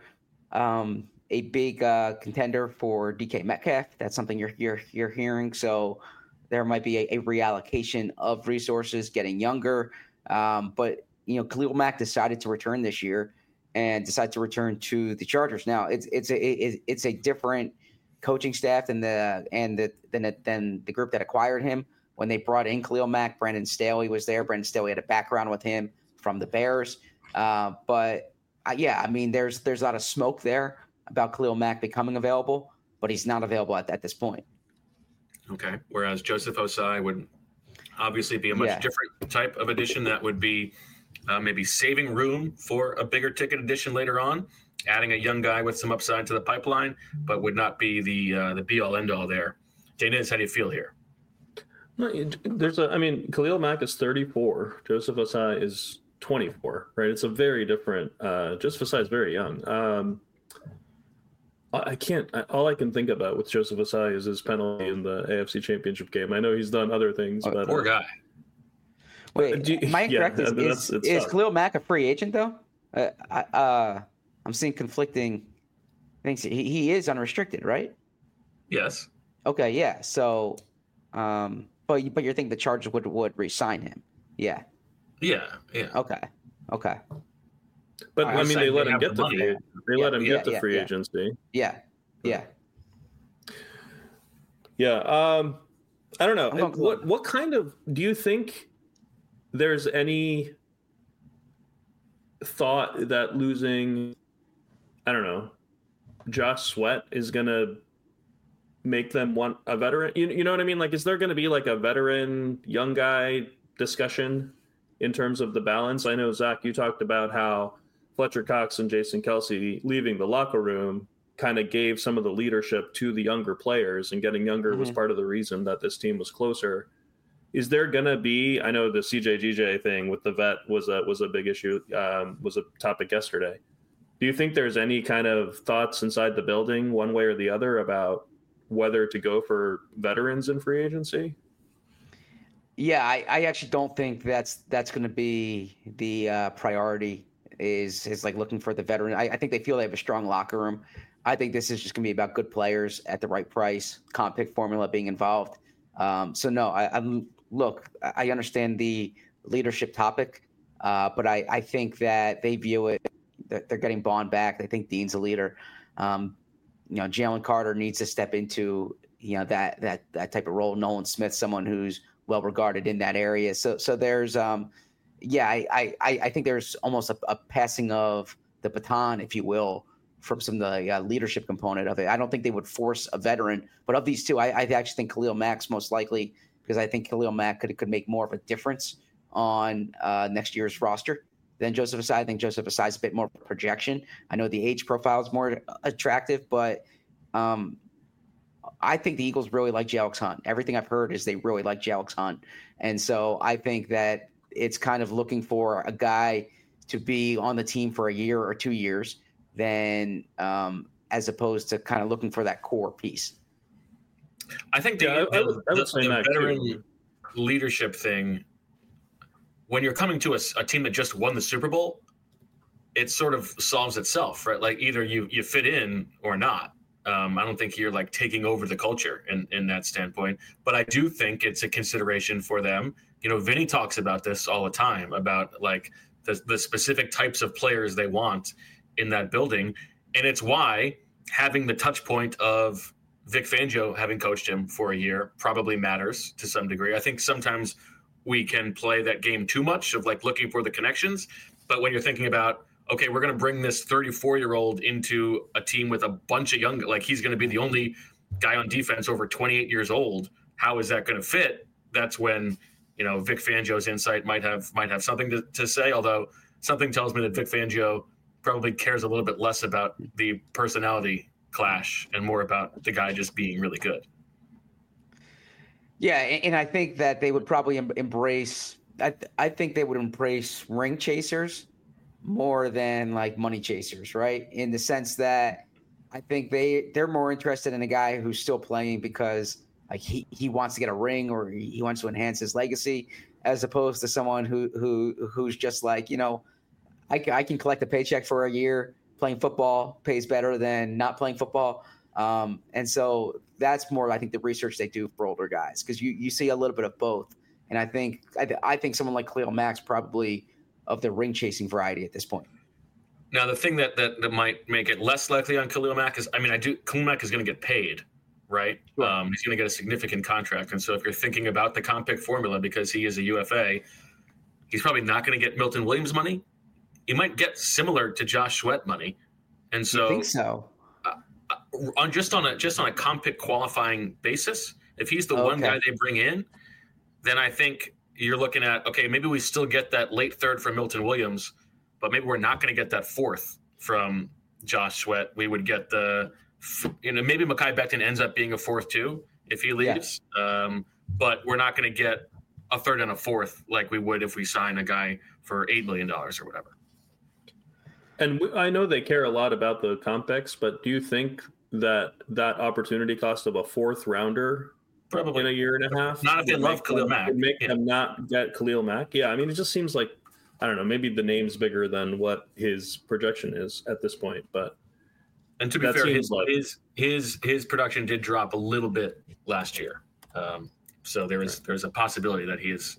um, a big uh, contender for D K Metcalf. That's something you're you're you're hearing. So there might be a, a reallocation of resources, getting younger. Um, but you know, Khalil Mack decided to return this year and decided to return to the Chargers. Now it's it's a it, it's a different coaching staff than the and the than than the group that acquired him. When they brought in Khalil Mack, Brandon Staley was there. Brandon Staley had a background with him from the Bears. Uh, but, uh, yeah, I mean, there's there's a lot of smoke there about Khalil Mack becoming available, but he's not available at, at this point. Okay. Whereas Joseph Osai would obviously be a much Yeah. different type of addition that would be uh, maybe saving room for a bigger ticket addition later on, adding a young guy with some upside to the pipeline, but would not be the uh, the be all end all there. Daniz, how do you feel here? No, there's a. I mean, Khalil Mack is thirty-four. Joseph Osai is twenty-four. Right. It's a very different. Uh, Joseph Osai is very young. Um, I can't. All I can think about with Joseph Osai is his penalty in the A F C Championship game. I know he's done other things, Oh, but Poor uh, guy. Wait, Do you- am I yeah, incorrect? I Is, mean, is, that's- it's is tough. Khalil Mack a free agent though? Uh, I, uh, I'm seeing conflicting things. He, he is unrestricted, right? Yes. Okay, yeah. So, um, but you- but you're thinking the Chargers would would re-sign him? Yeah. Yeah. Yeah. Okay. Okay. but I I mean, they said let they him have get the the money. free. They Yeah, let him yeah, get the yeah, free yeah. agency. Yeah. Yeah. Yeah. Um, I don't know. I'm going What Khalil. what kind of do you think there's any thought that losing, I don't know, Josh Sweat is gonna make them want a veteran? You, you know what I mean? Like, is there gonna be like a veteran young guy discussion in terms of the balance? I know, Zach, you talked about how Fletcher Cox and Jason Kelsey leaving the locker room kind of gave some of the leadership to the younger players, and getting younger was Mhm. part of the reason that this team was closer. Is there gonna be? I know the C J G J thing with the vet was a was a big issue, um, was a topic yesterday. Do you think there's any kind of thoughts inside the building, one way or the other, about whether to go for veterans in free agency? Yeah, I, I actually don't think that's that's going to be the uh, priority. Is is like looking for the veteran. I, I think they feel they have a strong locker room. I think this is just going to be about good players at the right price, comp pick formula being involved. Um, so no, I, I'm look. I understand the leadership topic, uh, but I, I think that they view it. That they're getting Bond back. They think Dean's a leader. Um, you know, Jalen Carter needs to step into you know that that that type of role. Nolan Smith, someone who's well regarded in that area. So so there's um yeah, I I, I think there's almost a, a passing of the baton, if you will, from some of the uh, leadership component of it. I don't think they would force a veteran, but of these two, I, I actually think Khalil Mack's most likely, because I think Khalil Mack could could make more of a difference on uh, next year's roster than Joseph Osai. I think Joseph Osai is a bit more projection. I know the age profile is more attractive, but um, I think the Eagles really like Jalex Hunt. Everything I've heard is they really like Jalex Hunt. And so I think that it's kind of looking for a guy to be on the team for a year or two years than um, as opposed to kind of looking for that core piece. I think the, Yeah, I- I the, would- I would the- say the Mac, veteran too. leadership thing, when you're coming to a, s- a team that just won the Super Bowl, it sort of solves itself, right? Like either you you fit in or not. Um, I don't think you're like taking over the culture in, in that standpoint, but I do think it's a consideration for them. You know, Vinny talks about this all the time about like the, the specific types of players they want in that building. And it's why having the touch point of Vic Fangio having coached him for a year probably matters to some degree. I think sometimes we can play that game too much of like looking for the connections. But when you're thinking about, okay, we're going to bring this thirty-four year old into a team with a bunch of young, like he's going to be the only guy on defense over twenty-eight years old. How is that going to fit? That's when, you know, Vic Fangio's insight might have, might have something to, to say. Although something tells me that Vic Fangio probably cares a little bit less about the personality clash and more about the guy just being really good. Yeah, and, and I think that they would probably em- embrace. I, th- I think they would embrace ring chasers more than like money chasers, right? In the sense that I think they they're more interested in a guy who's still playing because like he, he wants to get a ring or he, he wants to enhance his legacy, as opposed to someone who who who's just like, you know, I, ca- I can collect a paycheck for a year. Playing football pays better than not playing football. Um, and so that's more, I think, the research they do for older guys, because you, you see a little bit of both. And I think I, th- I think someone like Khalil Mack's probably of the ring chasing variety at this point. Now, the thing that, that, that might make it less likely on Khalil Mack is, I mean, I do Khalil Mack is going to get paid, right? Sure. Um, he's going to get a significant contract. And so if you're thinking about the comp pick formula, because he is a U F A, he's probably not going to get Milton Williams money. He might get similar to Josh Sweat money. And so You think so? on just on a just on a comp pick qualifying basis, If he's the Okay. one guy they bring in, then I think you're looking at, okay, maybe we still get that late third from Milton Williams, but maybe we're not going to get that fourth from Josh Sweat. We would get the, you know, maybe Mekhi Becton ends up being a fourth too if he leaves, yeah. um, but we're not going to get a third and a fourth like we would if we sign a guy for eight million dollars or whatever. And I know they care a lot about the complex, but do you think that that opportunity cost of a fourth rounder probably in a year and a half, not if they love Khalil them, Mack, would make yeah. them not get Khalil Mack? Yeah, I mean, it just seems like, I don't know, maybe the name's bigger than what his projection is at this point. But and to be fair, his, like, his his his production did drop a little bit last year, um, so there is right. there's a possibility that he is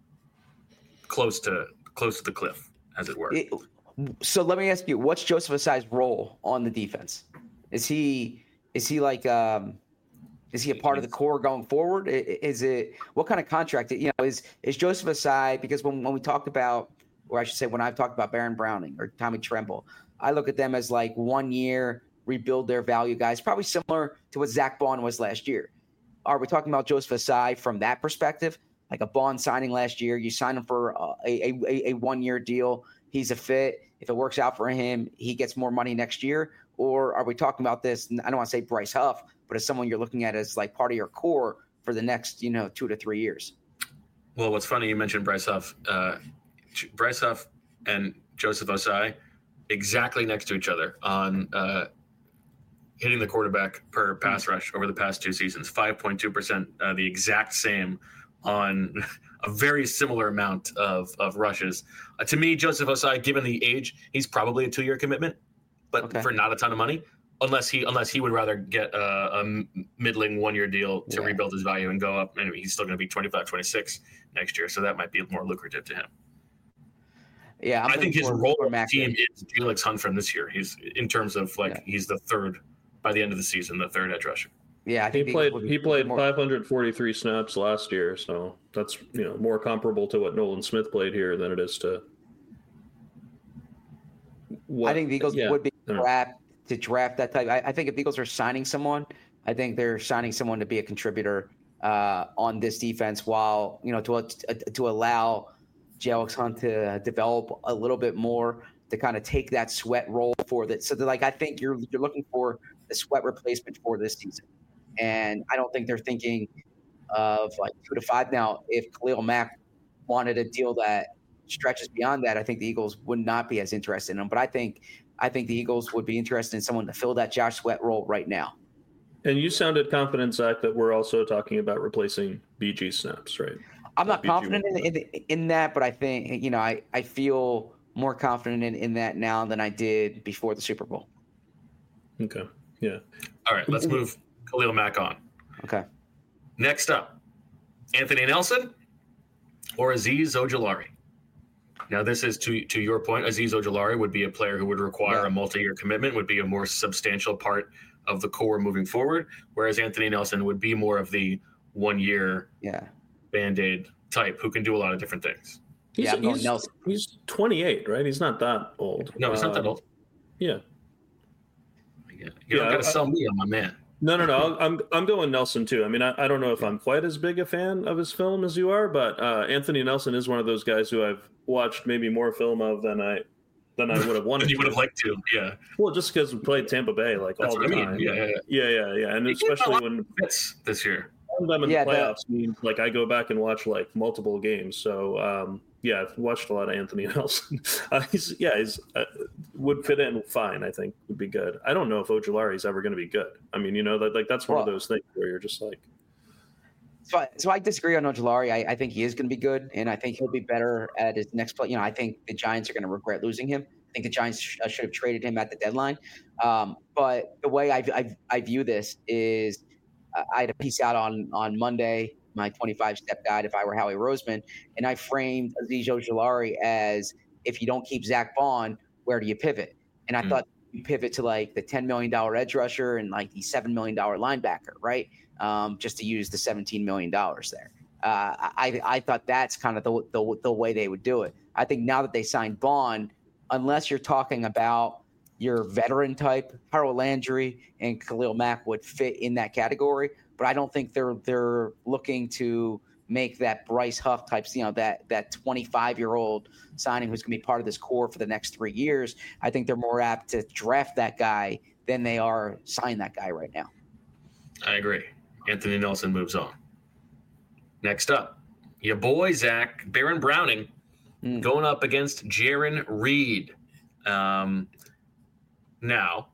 close to close to the cliff, as it were. It, so let me ask you, what's Joseph Ossai's role on the defense? Is he is he like um, is he a part of the core going forward? Is it what kind of contract? You know, is is Joseph Ossai? Because when when we talked about, or I should say, when I've talked about Baron Browning or Tommy Tremble, I look at them as like one year rebuild their value guys, probably similar to what Zach Bond was last year. Are we talking about Joseph Ossai from that perspective? Like a Bond signing last year, you sign him for a, a, a, a one-year deal. He's a fit. If it works out for him, he gets more money next year. Or are we talking about this? I don't want to say Bryce Huff, but as someone you're looking at as like part of your core for the next, you know, two to three years. Well, what's funny, you mentioned Bryce Huff. Uh, Bryce Huff and Joseph Ossai exactly next to each other on uh, hitting the quarterback per pass rush over the past two seasons. five point two percent, uh, the exact same on a very similar amount of, of rushes. Uh, to me, Joseph Ossai, given the age, he's probably a two-year commitment, but okay. for not a ton of money, unless he unless he would rather get a, a middling one-year deal to yeah. rebuild his value and go up. Anyway, he's still going to be twenty-five, twenty-six next year, so that might be more lucrative to him. Yeah, I'm I think his role on the team is Felix Hunt from this year. He's in terms of like yeah. he's the third by the end of the season, the third edge rusher. Yeah, I think he played. He played more... five hundred forty-three snaps last year, so that's you know more comparable to what Nolan Smith played here than it is to. What, I think the Eagles yeah, would be trapped to draft that type. I, I think if the Eagles are signing someone, I think they're signing someone to be a contributor uh, on this defense, while you know to uh, to allow Felix Hunt to develop a little bit more, to kind of take that Sweat role for that. So, like, I think you're you're looking for the Sweat replacement for this season. And I don't think they're thinking of like two to five. Now, if Khalil Mack wanted a deal that stretches beyond that, I think the Eagles would not be as interested in him. But I think I think the Eagles would be interested in someone to fill that Josh Sweat role right now. And you sounded confident, Zach, that we're also talking about replacing B G snaps, right? I'm not confident in, in, in that, but I think, you know, I, I feel more confident in, in that now than I did before the Super Bowl. Okay. Yeah. All right. Let's move Khalil Mack on. Okay. Next up, Anthony Nelson or Azeez Ojulari. Now, this is to to your point. Azeez Ojulari would be a player who would require yeah. a multi-year commitment, would be a more substantial part of the core moving forward, whereas Anthony Nelson would be more of the one-year yeah. Band-Aid type who can do a lot of different things. He's, yeah, he's, Nelson. he's twenty-eight, right? He's not that old. No, he's uh, not that old. Yeah. You yeah, don't got to sell me on my man. No, no, no. I'm I'm going Nelson too. I mean, I, I don't know if I'm quite as big a fan of his film as you are, but uh, Anthony Nelson is one of those guys who I've watched maybe more film of than I than I would have wanted. You would have liked to, yeah. Well, just because we played Tampa Bay like That's all the I mean. time. Yeah, yeah, yeah, yeah, yeah, yeah. And he especially when this year. them in yeah, the playoffs that... means like I go back and watch like multiple games. So um, yeah, I've watched a lot of Anthony Nelson. uh, he's yeah, he's uh, would fit in fine. I think would be good. I don't know if Ojulari is ever going to be good. I mean, you know that like that's one well, of those things where you're just like. So, I, so I disagree on Ojulari. I, I think he is going to be good, and I think he'll be better at his next play. You know, I think the Giants are going to regret losing him. I think the Giants sh- should have traded him at the deadline. Um, but the way I, I, I view this is, uh, I had a piece out on on Monday, my twenty-five step guide, if I were Howie Roseman, and I framed Azeez Ojulari as, if you don't keep Zach Bond, where do you pivot? And I mm. thought you pivot to like the ten million dollars edge rusher and like the seven million dollars linebacker, right? Um, just to use the seventeen million dollars there. Uh, I, I thought that's kind of the, the the way they would do it. I think now that they signed Bond, unless you're talking about your veteran type, Harold Landry and Khalil Mack would fit in that category, but I don't think they're they're looking to make that Bryce Huff types, you know, that that twenty-five-year-old signing who's going to be part of this core for the next three years. I think they're more apt to draft that guy than they are sign that guy right now. I agree. Anthony Nelson moves on. Next up, your boy, Zach, Baron Browning, mm. going up against Jarran Reed. Um, now,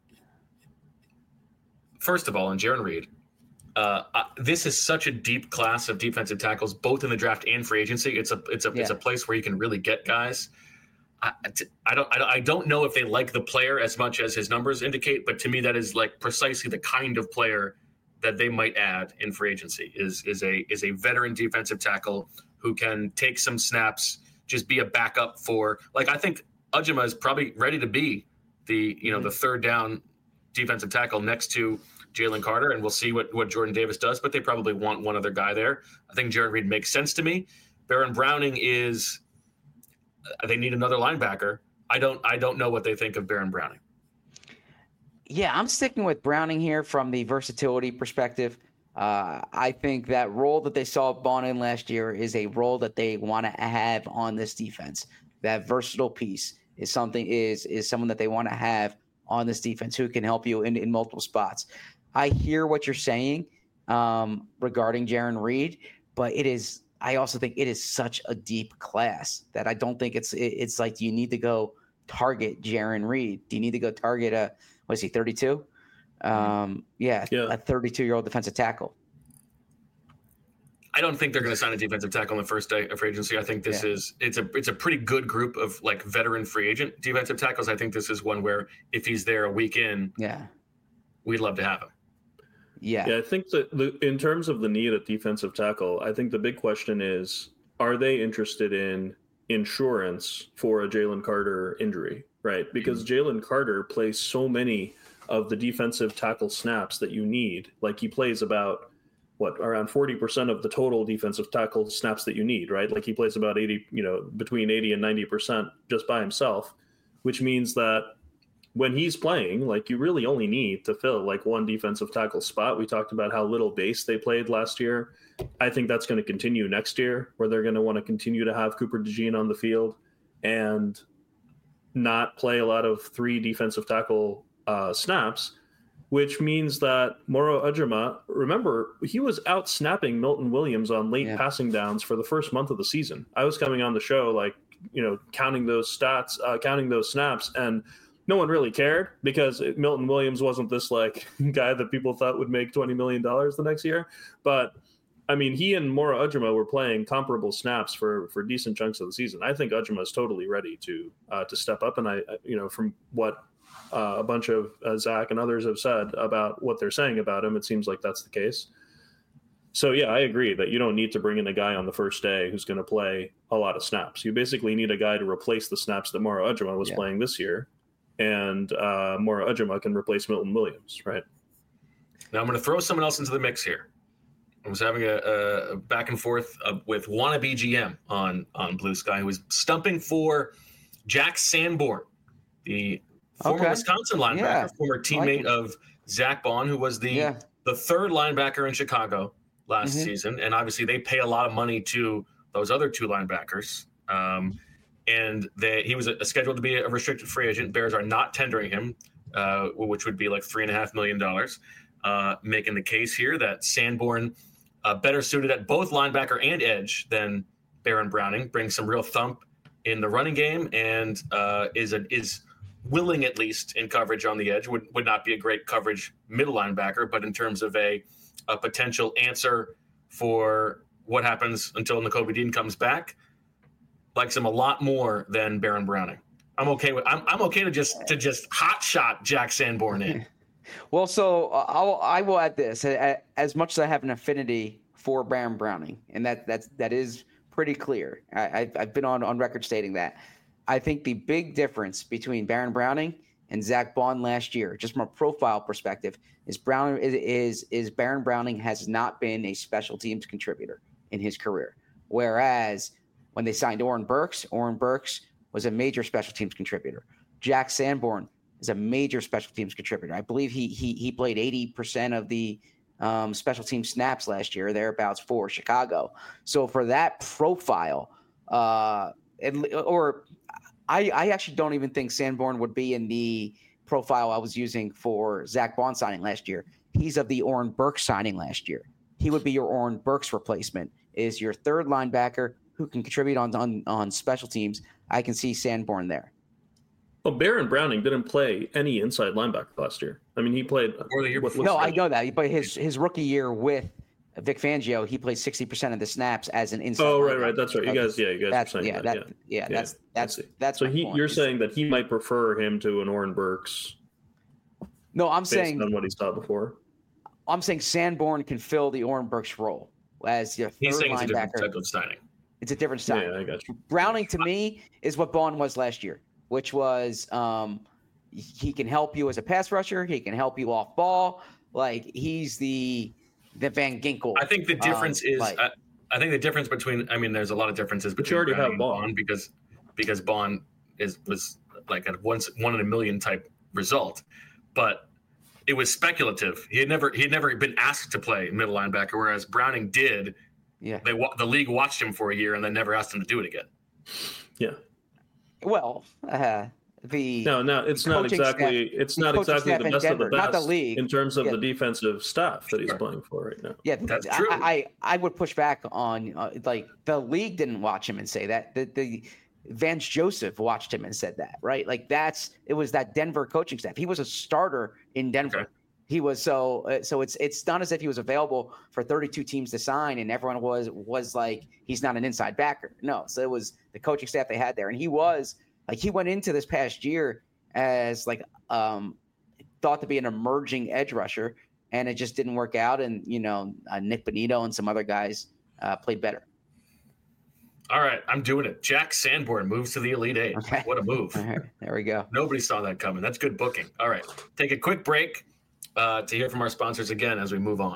first of all, in Jarran Reed, uh, uh, this is such a deep class of defensive tackles, both in the draft and free agency. It's a it's a yeah. it's a place where you can really get guys. I, I don't I don't know if they like the player as much as his numbers indicate, but to me, that is like precisely the kind of player that they might add in free agency. Is is a is a veteran defensive tackle who can take some snaps, just be a backup for. Like I think Ujima is probably ready to be the you know mm-hmm. the third down defensive tackle next to Jalen Carter, and we'll see what, what Jordan Davis does, but they probably want one other guy there. I think Jarran Reed makes sense to me. Baron Browning is – they need another linebacker. I don't I don't know what they think of Baron Browning. Yeah, I'm sticking with Browning here from the versatility perspective. Uh, I think that role that they saw Bond in last year is a role that they want to have on this defense. That versatile piece is something is is someone that they want to have on this defense who can help you in, in multiple spots. I hear what you're saying um, regarding Jarran Reed, but it is. I also think it is such a deep class that I don't think it's. It, it's like, do you need to go target Jarran Reed? Do you need to go target a what is he thirty-two? Um, yeah, yeah, a thirty-two-year-old defensive tackle. I don't think they're going to sign a defensive tackle on the first day of free agency. I think this yeah. is it's a it's a pretty good group of like veteran free agent defensive tackles. I think this is one where if he's there a week in, yeah, we'd love to have him. Yeah. Yeah, I think that the, in terms of the need at defensive tackle, I think the big question is, are they interested in insurance for a Jalen Carter injury, right? Because Jalen Carter plays so many of the defensive tackle snaps that you need. Like he plays about, what, around forty percent of the total defensive tackle snaps that you need, right? Like he plays about eighty, you know, between eighty and ninety percent just by himself, which means that when he's playing, like you really only need to fill like one defensive tackle spot. We talked about how little base they played last year. I think that's going to continue next year, where they're going to want to continue to have Cooper DeJean on the field and not play a lot of three defensive tackle uh, snaps, which means that Moro Ujima, remember, he was out snapping Milton Williams on late yeah. passing downs for the first month of the season. I was coming on the show, like, you know, counting those stats, uh, counting those snaps, and no one really cared because Milton Williams wasn't this like guy that people thought would make twenty million dollars the next year. But I mean, he and Moro Ujima were playing comparable snaps for, for decent chunks of the season. I think Ujima is totally ready to, uh, to step up. And I, you know, from what uh, a bunch of uh, Zach and others have said about what they're saying about him, it seems like that's the case. So yeah, I agree that you don't need to bring in a guy on the first day who's going to play a lot of snaps. You basically need a guy to replace the snaps that Moro Ujima was yeah. playing this year. And uh, Moro Ujima can replace Milton Williams, right? Now I'm going to throw someone else into the mix here. I was having a, a back and forth uh, with wannabe G M on, on Blue Sky, who was stumping for Jack Sanborn, the former okay. Wisconsin linebacker, yeah. former teammate like of Zach Bond, who was the yeah. the third linebacker in Chicago last mm-hmm. season. And obviously they pay a lot of money to those other two linebackers. Um, and they, he was a, a scheduled to be a restricted free agent. Bears are not tendering him, uh, which would be like three and a half million dollars, uh, making the case here that Sanborn, uh, better suited at both linebacker and edge than Baron Browning, brings some real thump in the running game and uh, is a, is willing, at least in coverage on the edge. Would would not be a great coverage middle linebacker, but in terms of a, a potential answer for what happens until Nakobe Dean comes back, likes him a lot more than Baron Browning. I'm okay with. I'm I'm okay to just to just hot shot Jack Sanborn in. Well, so I'll, I will add this. As much as I have an affinity for Baron Browning, and that that's that is pretty clear. I, I've I've been on on record stating that. I think the big difference between Baron Browning and Zach Bond last year, just from a profile perspective, is Brown is is, is Baron Browning has not been a special teams contributor in his career, whereas when they signed Oren Burks, Oren Burks was a major special teams contributor. Jack Sanborn is a major special teams contributor. I believe he he he played eighty percent of the um, special team snaps last year, thereabouts for Chicago. So for that profile, uh, it, or I, I actually don't even think Sanborn would be in the profile I was using for Zach Bond signing last year. He's of the Oren Burks signing last year. He would be your Oren Burks replacement, is your third linebacker who can contribute on, on, on special teams. I can see Sanborn there. Well, Baron Browning didn't play any inside linebacker last year. I mean, he played. Or the year before. No, I know that. But his, his rookie year with Vic Fangio, he played sixty percent of the snaps as an inside. Oh, right, linebacker. right. That's right. You guys, yeah, you guys that's, were saying yeah, that. that, Yeah, yeah, that's that's that's that's. So he, point. you're Is, saying that he might prefer him to an Oren Burks. No, I'm based saying on what he saw before. I'm saying Sanborn can fill the Oren Burks role as your third He's saying linebacker. it's a different type of signing. It's a different style. Yeah, I got you. Browning to me is what Bond was last year, which was um, he can help you as a pass rusher. He can help you off ball. Like he's the the Van Ginkel. I think the difference um, is like, I, I think the difference between I mean there's a lot of differences But between you already Browning have and Bond. Bond because because Bond is was like a once one in a million type result, but it was speculative. He had never he had never been asked to play middle linebacker, whereas Browning did. yeah. They the league watched him for a year and then never asked him to do it again. Yeah. Well, uh, the No, no, it's not coaching exactly. staff- it's the not coaching exactly staff the in best Denver, of the not best the league. in terms of Yeah. the defensive staff that he's Sure. playing for right now. Yeah, That's I, true. I, I I would push back on uh, like the league didn't watch him and say that. The the Vance Joseph watched him and said that, right? Like that's it was that Denver coaching staff. He was a starter in Denver. Okay. He was so uh, so it's it's not as if he was available for thirty-two teams to sign and everyone was was like he's not an inside backer. No, so it was the coaching staff they had there, and he was like he went into this past year as like um thought to be an emerging edge rusher, and it just didn't work out. And you know uh, Nick Bonito and some other guys uh, played better. All right, I'm doing it. Jack Sanborn moves to the Elite Eight. Okay. What a move. All right, there we go. Nobody saw that coming. That's good booking. All right, take a quick break uh, to hear from our sponsors again as we move on.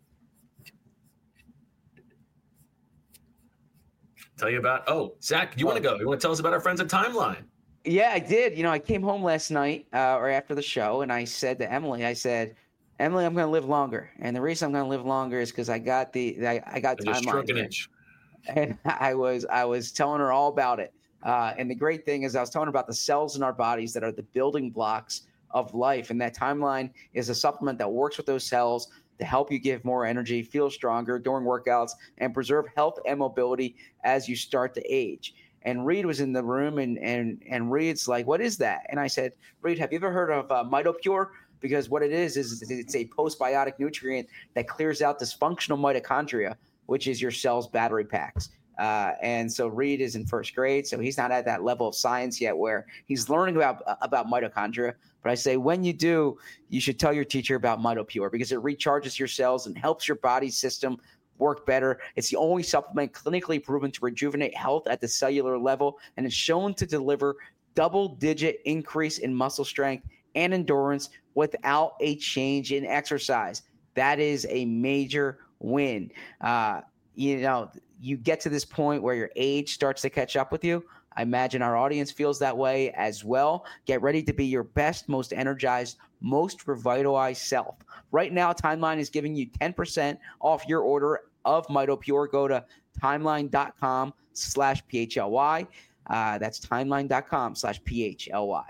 Tell you about, oh, Zach, you want to go? You want to tell us about our friends at Timeline? Yeah, I did. You know, I came home last night uh, or after the show, and I said to Emily, I said, Emily, I'm going to live longer. And the reason I'm going to live longer is because I got the I, I got I just shrunk Timeline. an here. inch. And I was I was telling her all about it. Uh, and the great thing is I was telling her about the cells in our bodies that are the building blocks of life. And that Timeline is a supplement that works with those cells to help you give more energy, feel stronger during workouts, and preserve health and mobility as you start to age. And Reed was in the room, and and and Reed's like, "What is that?" And I said, "Reed, have you ever heard of uh, MitoPure? Because what it is is it's a postbiotic nutrient that clears out dysfunctional mitochondria, which is your cell's battery packs." Uh, and so Reed is in first grade, so he's not at that level of science yet where he's learning about about mitochondria. But I say when you do, you should tell your teacher about MitoPure because it recharges your cells and helps your body system work better. It's the only supplement clinically proven to rejuvenate health at the cellular level, and it's shown to deliver double-digit increase in muscle strength and endurance without a change in exercise. That is a major win. Uh, you know, you get to this point where your age starts to catch up with you. I imagine our audience feels that way as well. Get ready to be your best, most energized, most revitalized self. Right now, Timeline is giving you ten percent off your order of MitoPure. Go to timeline.com slash PHLY. Uh, that's timeline.com slash PHLY.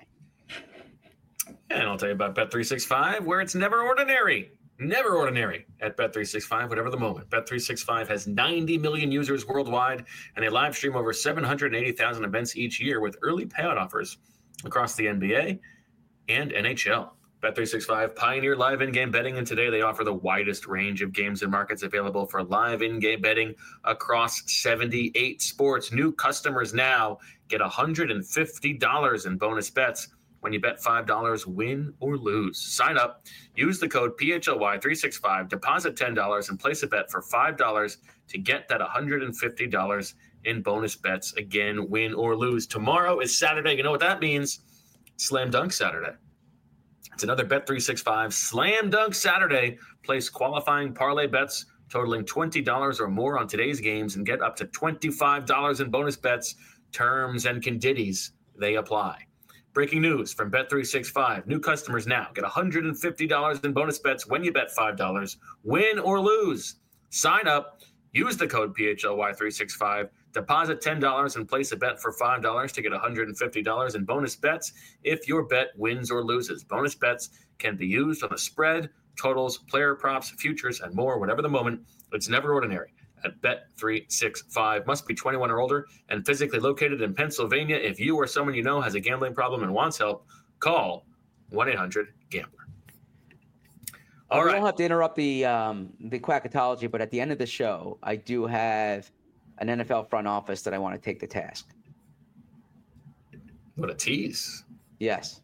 And I'll tell you about Bet three sixty-five, where it's never ordinary. Never ordinary at Bet three sixty-five, whatever the moment. Bet three sixty-five has ninety million users worldwide, and they live stream over seven hundred eighty thousand events each year with early payout offers across the N B A and N H L. Bet three sixty-five pioneered live in-game betting, and today they offer the widest range of games and markets available for live in-game betting across seventy-eight sports. New customers now get one hundred fifty dollars in bonus bets when you bet five dollars, win or lose. Sign up, use the code P H L Y three sixty-five, deposit ten dollars, and place a bet for five dollars to get that one hundred fifty dollars in bonus bets. Again, win or lose. Tomorrow is Saturday. You know what that means? Slam Dunk Saturday. It's another Bet three sixty-five Slam Dunk Saturday. Place qualifying parlay bets totaling twenty dollars or more on today's games and get up to twenty-five dollars in bonus bets. Terms and conditions, they apply. Breaking news from Bet three sixty-five. New customers now get one hundred fifty dollars in bonus bets when you bet five dollars. Win or lose. Sign up. Use the code P H L Y three sixty-five. Deposit ten dollars and place a bet for five dollars to get one hundred fifty dollars in bonus bets if your bet wins or loses. Bonus bets can be used on the spread, totals, player props, futures, and more, whatever the moment. It's never ordinary. At Bet three sixty-five. Must be twenty-one or older and physically located in Pennsylvania. If you or someone you know has a gambling problem and wants help, call one eight hundred gambler. All I right. don't have to interrupt the um, the quackatology, but at the end of the show, I do have an N F L front office that I want to take to task. What a tease. Yes.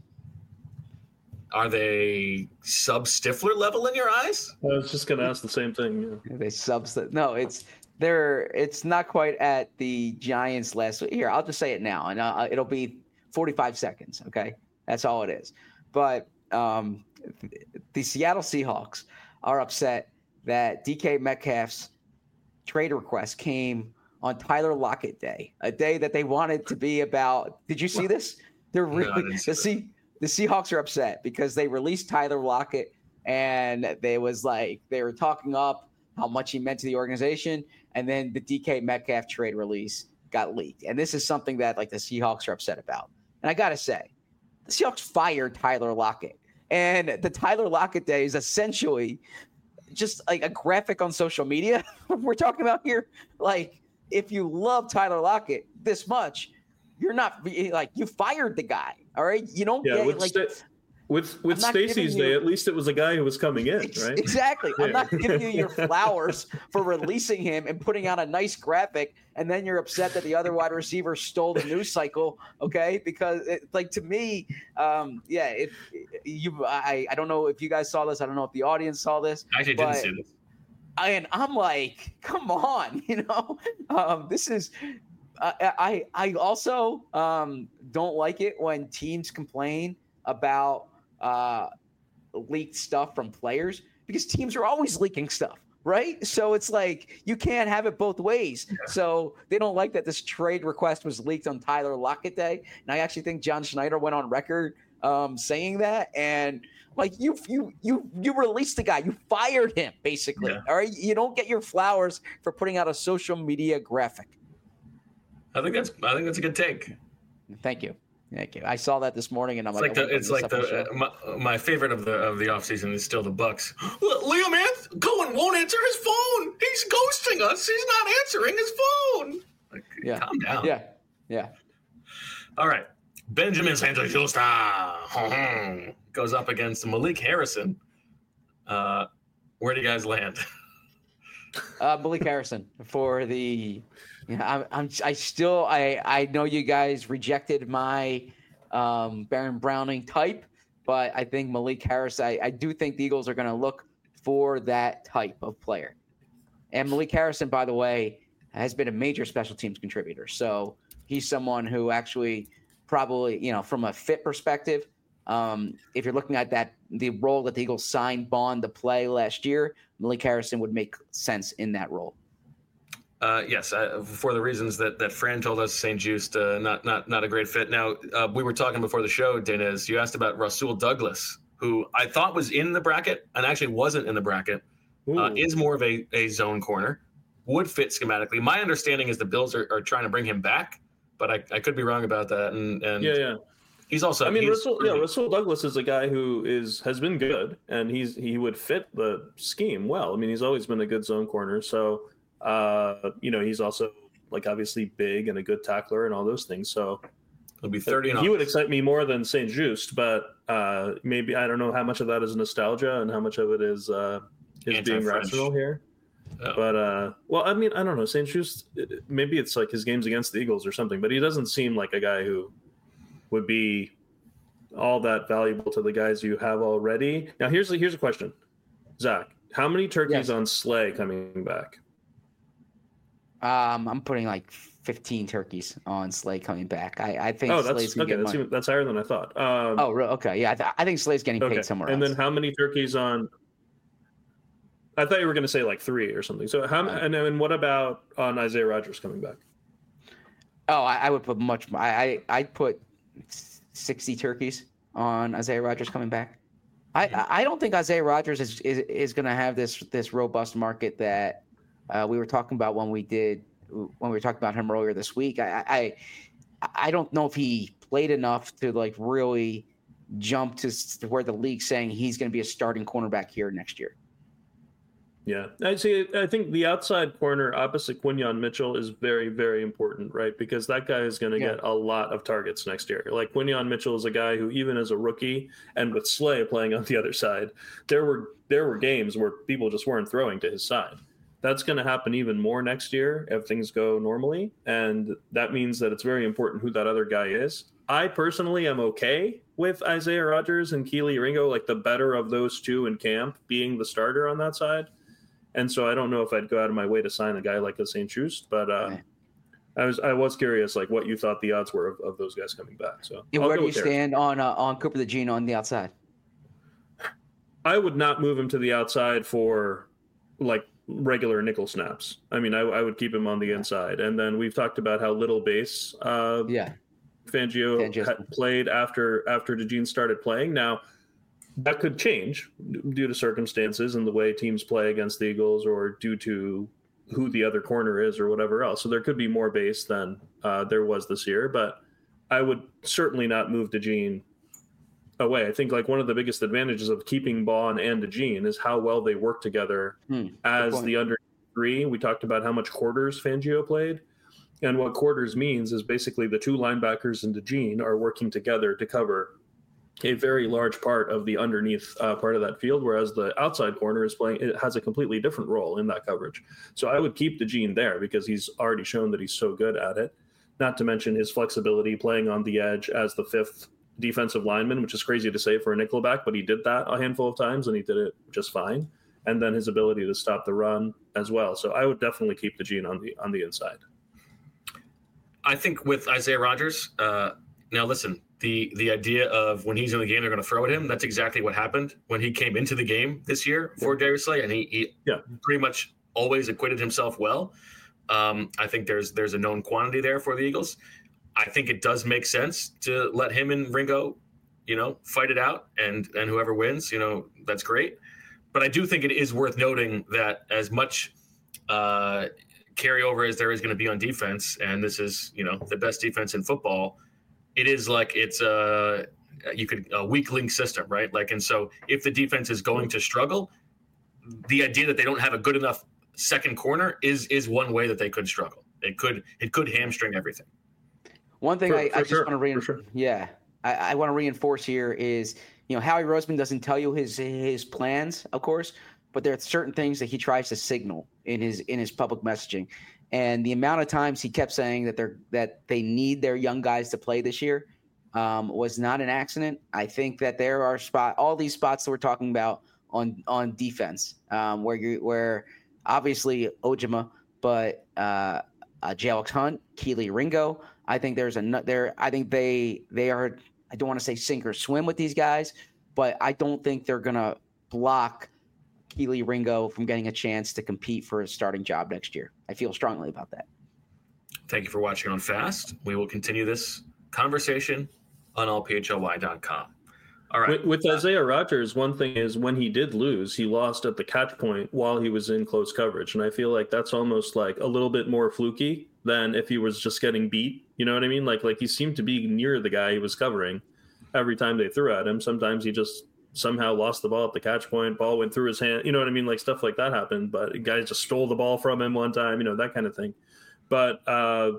Are they sub-Stifler level in your eyes? I was just going to ask the same thing. Yeah. They subs. No, it's they're it's not quite at the Giants last week. Here, I'll just say it now, and uh, it'll be forty-five seconds. Okay, that's all it is. But um, the Seattle Seahawks are upset that D K Metcalf's trade request came on Tyler Lockett Day, a day that they wanted to be about. Did you see this? They're really No, the See, the Seahawks are upset because they released Tyler Lockett, and they was like they were talking up how much he meant to the organization, and then the D K Metcalf trade release got leaked, and this is something that like the Seahawks are upset about. And I gotta say, the Seahawks fired Tyler Lockett, and the Tyler Lockett Day is essentially just like a graphic on social media. We're talking about here, like if you love Tyler Lockett this much, you're not like you fired the guy. All right, you don't Yeah, get with like sta- with with I'm not Stacey's giving day, you- at least it was a guy who was coming in, right? exactly. I'm Yeah. not giving you your flowers for releasing him and putting out a nice graphic, and then you're upset that the other wide receiver stole the news cycle. Okay, because it, like to me, um, yeah, if you, I, I don't know if you guys saw this. I don't know if the audience saw this. I actually but- didn't see this. And I'm like, come on, you know, um, this is. Uh, I I also um, don't like it when teams complain about uh, leaked stuff from players because teams are always leaking stuff, right? So it's like you can't have it both ways. Yeah. So they don't like that this trade request was leaked on Tyler Lockett Day, and I actually think John Schneider went on record um, saying that and. Like you, you, you, you released the guy. You fired him, basically. Yeah. All right, you don't get your flowers for putting out a social media graphic. I think that's. I think that's a good take. Thank you, thank you. I saw that this morning, and I'm it's like, like the, it's like the uh, my, my favorite of the of the offseason is still the Bucks. Liam Anth- Cohen won't answer his phone. He's ghosting us. He's not answering his phone. Like, yeah. Calm down. Yeah, yeah. All right. Benjamin Sanchez-Justa goes up against Malik Harrison. Uh, where do you guys land? uh, Malik Harrison for the. You know, I'm, I'm. I still. I. I know you guys rejected my um, Baron Browning type, but I think Malik Harris. I, I do think the Eagles are going to look for that type of player. And Malik Harrison, by the way, has been a major special teams contributor. So he's someone who actually. Probably, you know, from a fit perspective, um, if you're looking at that, the role that the Eagles signed Bond to play last year, Malik Harrison would make sense in that role. Uh, yes, uh, for the reasons that, that Fran told us, Saint Just, uh, not not not a great fit. Now, uh, we were talking before the show, Denez. You asked about Rasul Douglas, who I thought was in the bracket and actually wasn't in the bracket. Uh, is more of a, a zone corner, would fit schematically. My understanding is the Bills are, are trying to bring him back. But I, I could be wrong about that, and, and yeah, yeah, he's also. I mean, he's, Russell, yeah, Russell Douglas is a guy who is has been good, and he's he would fit the scheme well. I mean, he's always been a good zone corner, so uh, you know, he's also like obviously big and a good tackler and all those things. So he'll be thirty. And he would excite me more than Saint Just, but uh, maybe I don't know how much of that is nostalgia and how much of it is uh, his being rational here. Oh. But, uh, well, I mean, I don't know. Saint Just, maybe it's like his games against the Eagles or something, but he doesn't seem like a guy who would be all that valuable to the guys you have already. Now, here's a, here's a question. Zach, how many turkeys yes. on Slay coming back? Um, I'm putting like fifteen turkeys on Slay coming back. I, I think oh, Slay's that's, okay, that's, even, that's higher than I thought. Um, oh, real? Okay. Yeah, I, th- I think Slay's getting okay. paid somewhere and else. And then how many turkeys on – I thought you were going to say like three or something. So how? And then what about on Isaiah Rodgers coming back? Oh, I, I would put much. I I I'd put sixty turkeys on Isaiah Rodgers coming back. I, I don't think Isaiah Rodgers is is, is going to have this this robust market that uh, we were talking about when we did when we were talking about him earlier this week. I I, I don't know if he played enough to like really jump to where the league's saying he's going to be a starting cornerback here next year. Yeah, I see. I think the outside corner opposite Quinyon Mitchell is very, very important, right? Because that guy is going to yeah. get a lot of targets next year. Like Quinyon Mitchell is a guy who, even as a rookie, and with Slay playing on the other side, there were there were games where people just weren't throwing to his side. That's going to happen even more next year if things go normally, and that means that it's very important who that other guy is. I personally am okay with Isaiah Rodgers and Kelee Ringo, like the better of those two in camp, being the starter on that side. And so I don't know if I'd go out of my way to sign a guy like a Saint-Just, but uh, right. I was I was curious, like what you thought the odds were of, of those guys coming back. So yeah, where do you stand on uh, on Cooper DeJean on the outside? I would not move him to the outside for like regular nickel snaps. I mean, I, I would keep him on the inside. And then we've talked about how little base uh, yeah. Fangio Fangio's... had played after after DeJean started playing. Now, that could change due to circumstances and the way teams play against the Eagles, or due to who the other corner is or whatever else. So there could be more base than uh, there was this year, but I would certainly not move DeJean away. I think like one of the biggest advantages of keeping Bond and DeJean is how well they work together hmm, as the under three. We talked about how much quarters Fangio played. And what quarters means is basically the two linebackers and DeJean are working together to cover a very large part of the underneath uh, part of that field, whereas the outside corner is playing, it has a completely different role in that coverage. So I would keep DeJean there because he's already shown that he's so good at it, not to mention his flexibility playing on the edge as the fifth defensive lineman, which is crazy to say for a nickelback, but he did that a handful of times and he did it just fine. And then his ability to stop the run as well. So I would definitely keep DeJean on the, on the inside. I think with Isaiah Rodgers, uh, now listen, The the idea of when he's in the game, they're going to throw at him. That's exactly what happened when he came into the game this year for yeah. Darius Slay, and he, he yeah. pretty much always acquitted himself well. Um, I think there's there's a known quantity there for the Eagles. I think it does make sense to let him and Ringo, you know, fight it out, and and whoever wins, you know, that's great. But I do think it is worth noting that as much uh, carryover as there is going to be on defense, and this is, you know, the best defense in football, it is like it's a you could a weak link system, right? Like, and so if the defense is going to struggle, the idea that they don't have a good enough second corner is is one way that they could struggle. It could it could hamstring everything. One thing for, I, for I just sure, want to reinforce, sure. yeah, I, I want to reinforce here is, you know, Howie Roseman doesn't tell you his his plans, of course, but there are certain things that he tries to signal in his in his public messaging. And the amount of times he kept saying that they're that they need their young guys to play this year um, was not an accident. I think that there are spot all these spots that we're talking about on on defense um, where you where obviously Ojima, but uh, uh, J-Alex Hunt, Kelee Ringo. I think there's a there. I think they they are. I don't want to say sink or swim with these guys, but I don't think they're gonna block Kelee Ringo from getting a chance to compete for a starting job next year. I feel strongly about that. Thank you for watching on Fast. We will continue this conversation on all P H L Y dot com. All right. With, with Isaiah Rodgers, one thing is when he did lose, he lost at the catch point while he was in close coverage. And I feel like that's almost like a little bit more fluky than if he was just getting beat. You know what I mean? Like, like he seemed to be near the guy he was covering every time they threw at him. Sometimes he just somehow lost the ball at the catch point, ball went through his hand, you know what I mean? Like stuff like that happened, but guys just stole the ball from him one time, you know, that kind of thing. But uh,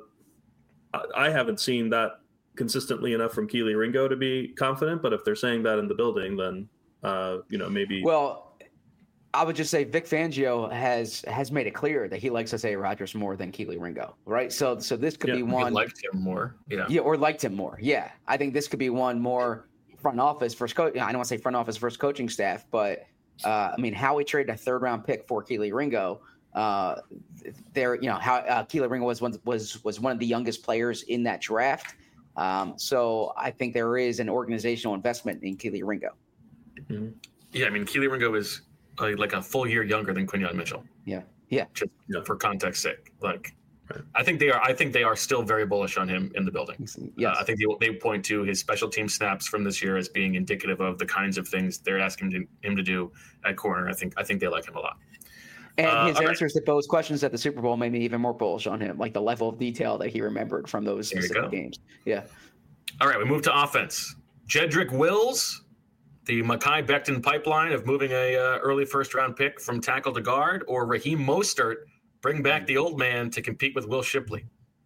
I haven't seen that consistently enough from Kelee Ringo to be confident, but if they're saying that in the building, then, uh, you know, maybe. Well, I would just say Vic Fangio has has made it clear that he likes Isaiah Rodgers more than Kelee Ringo, right? So so this could yeah, be one. He liked him more, yeah. Yeah, or liked him more, yeah. I think this could be one more front office versus coach. I don't want to say front office versus coaching staff, but uh, I mean, Howie traded a third round pick for Kelee Ringo. Uh, there, you know, how uh, Kelee Ringo was one was was one of the youngest players in that draft. Um, so I think there is an organizational investment in Kelee Ringo. Mm-hmm. Yeah, I mean, Kelee Ringo is uh, like a full year younger than Quinyon Mitchell. Yeah, yeah. Just yeah. for context sake, like I think they are. I think they are still very bullish on him in the building. Yes. Uh, I think they, they point to his special team snaps from this year as being indicative of the kinds of things they're asking him to, him to do at corner. I think I think they like him a lot. And uh, his answers right. to Bo's questions at the Super Bowl made me even more bullish on him, like the level of detail that he remembered from those specific games. Yeah. All right, we move to offense. Jedrick Wills, the Mekhi Becton pipeline of moving a uh, early first round pick from tackle to guard, or Raheem Mostert, bring back the old man to compete with Will Shipley.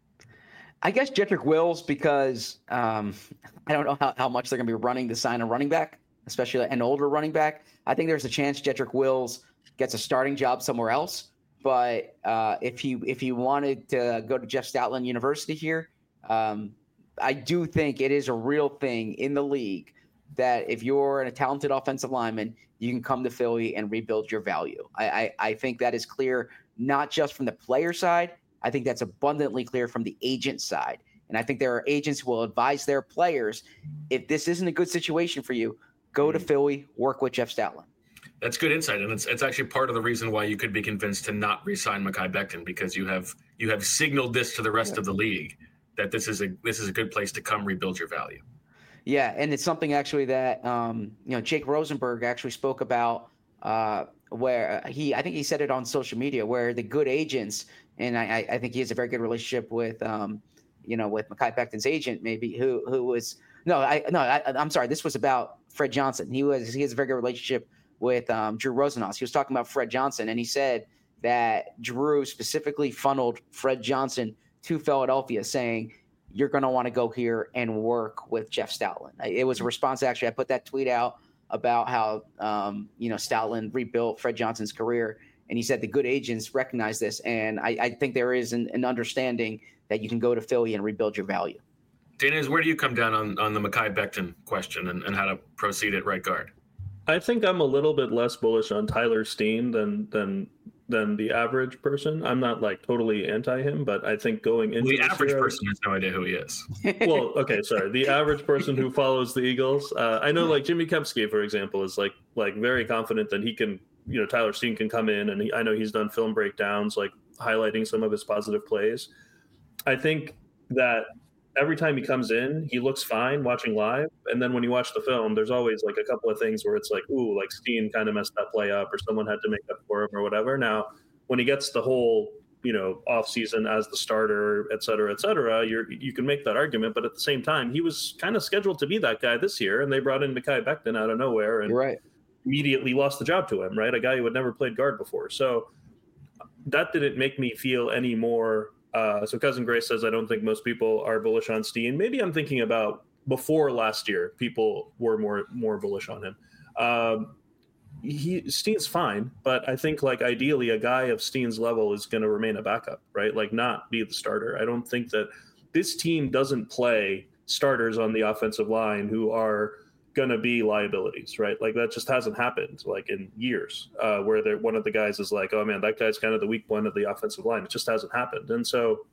I guess Jedrick Wills, because um, I don't know how, how much they're going to be running to sign a running back, especially an older running back. I think there's a chance Jedrick Wills gets a starting job somewhere else. But uh, if you if you wanted to go to Jeff Stoutland University here, um, I do think it is a real thing in the league that if you're a talented offensive lineman, you can come to Philly and rebuild your value. I, I, I think that is clear, not just from the player side. I think that's abundantly clear from the agent side. And I think there are agents who will advise their players, if this isn't a good situation for you, go to Philly, work with Jeff Stoutland. That's good insight, and it's it's actually part of the reason why you could be convinced to not re-sign Mekhi Becton, because you have you have signaled this to the rest yeah. of the league that this is a this is a good place to come rebuild your value. Yeah, and it's something actually that um, you know Jake Rosenberg actually spoke about, uh, where he I think he said it on social media, where the good agents, and I, I think he has a very good relationship with um, you know with Mekhi Becton's agent, maybe who who was no I no I, I'm sorry, this was about Fred Johnson. He was he has a very good relationship with um, Drew Rosenhaus. He was talking about Fred Johnson, and he said that Drew specifically funneled Fred Johnson to Philadelphia, saying, you're going to want to go here and work with Jeff Stoutland. It was a response. Actually, I put that tweet out about how, um, you know, Stoutland rebuilt Fred Johnson's career. And he said the good agents recognize this. And I, I think there is an, an understanding that you can go to Philly and rebuild your value. Dana, where do you come down on, on the Mekhi Becton question and, and how to proceed at right guard? I think I'm a little bit less bullish on Tyler Steen than than than the average person. I'm not like totally anti him, but I think going into well, the average year, person has no idea who he is. Well, okay, sorry. The average person who follows the Eagles, uh, I know like Jimmy Kempski, for example, is like like very confident that he can, you know, Tyler Steen can come in, and he, I know he's done film breakdowns, like highlighting some of his positive plays. I think that every time he comes in, he looks fine watching live. And then when you watch the film, there's always like a couple of things where it's like, ooh, like Steen kind of messed that play up, or someone had to make up for him or whatever. Now, when he gets the whole, you know, off season as the starter, et cetera, et cetera, you're, you can make that argument. But at the same time, he was kind of scheduled to be that guy this year. And they brought in Mekhi Becton out of nowhere and right. immediately lost the job to him, right? A guy who had never played guard before. So that didn't make me feel any more. Uh, so Cousin Grace says, I don't think most people are bullish on Steen. Maybe I'm thinking about before last year, people were more more bullish on him. Um, he Steen's fine, but I think like ideally a guy of Steen's level is going to remain a backup, right? Like not be the starter. I don't think that this team doesn't play starters on the offensive line who are going to be liabilities, right? Like that just hasn't happened like in years uh, where one of the guys is like, oh man, that guy's kind of the weak point of the offensive line. It just hasn't happened. And so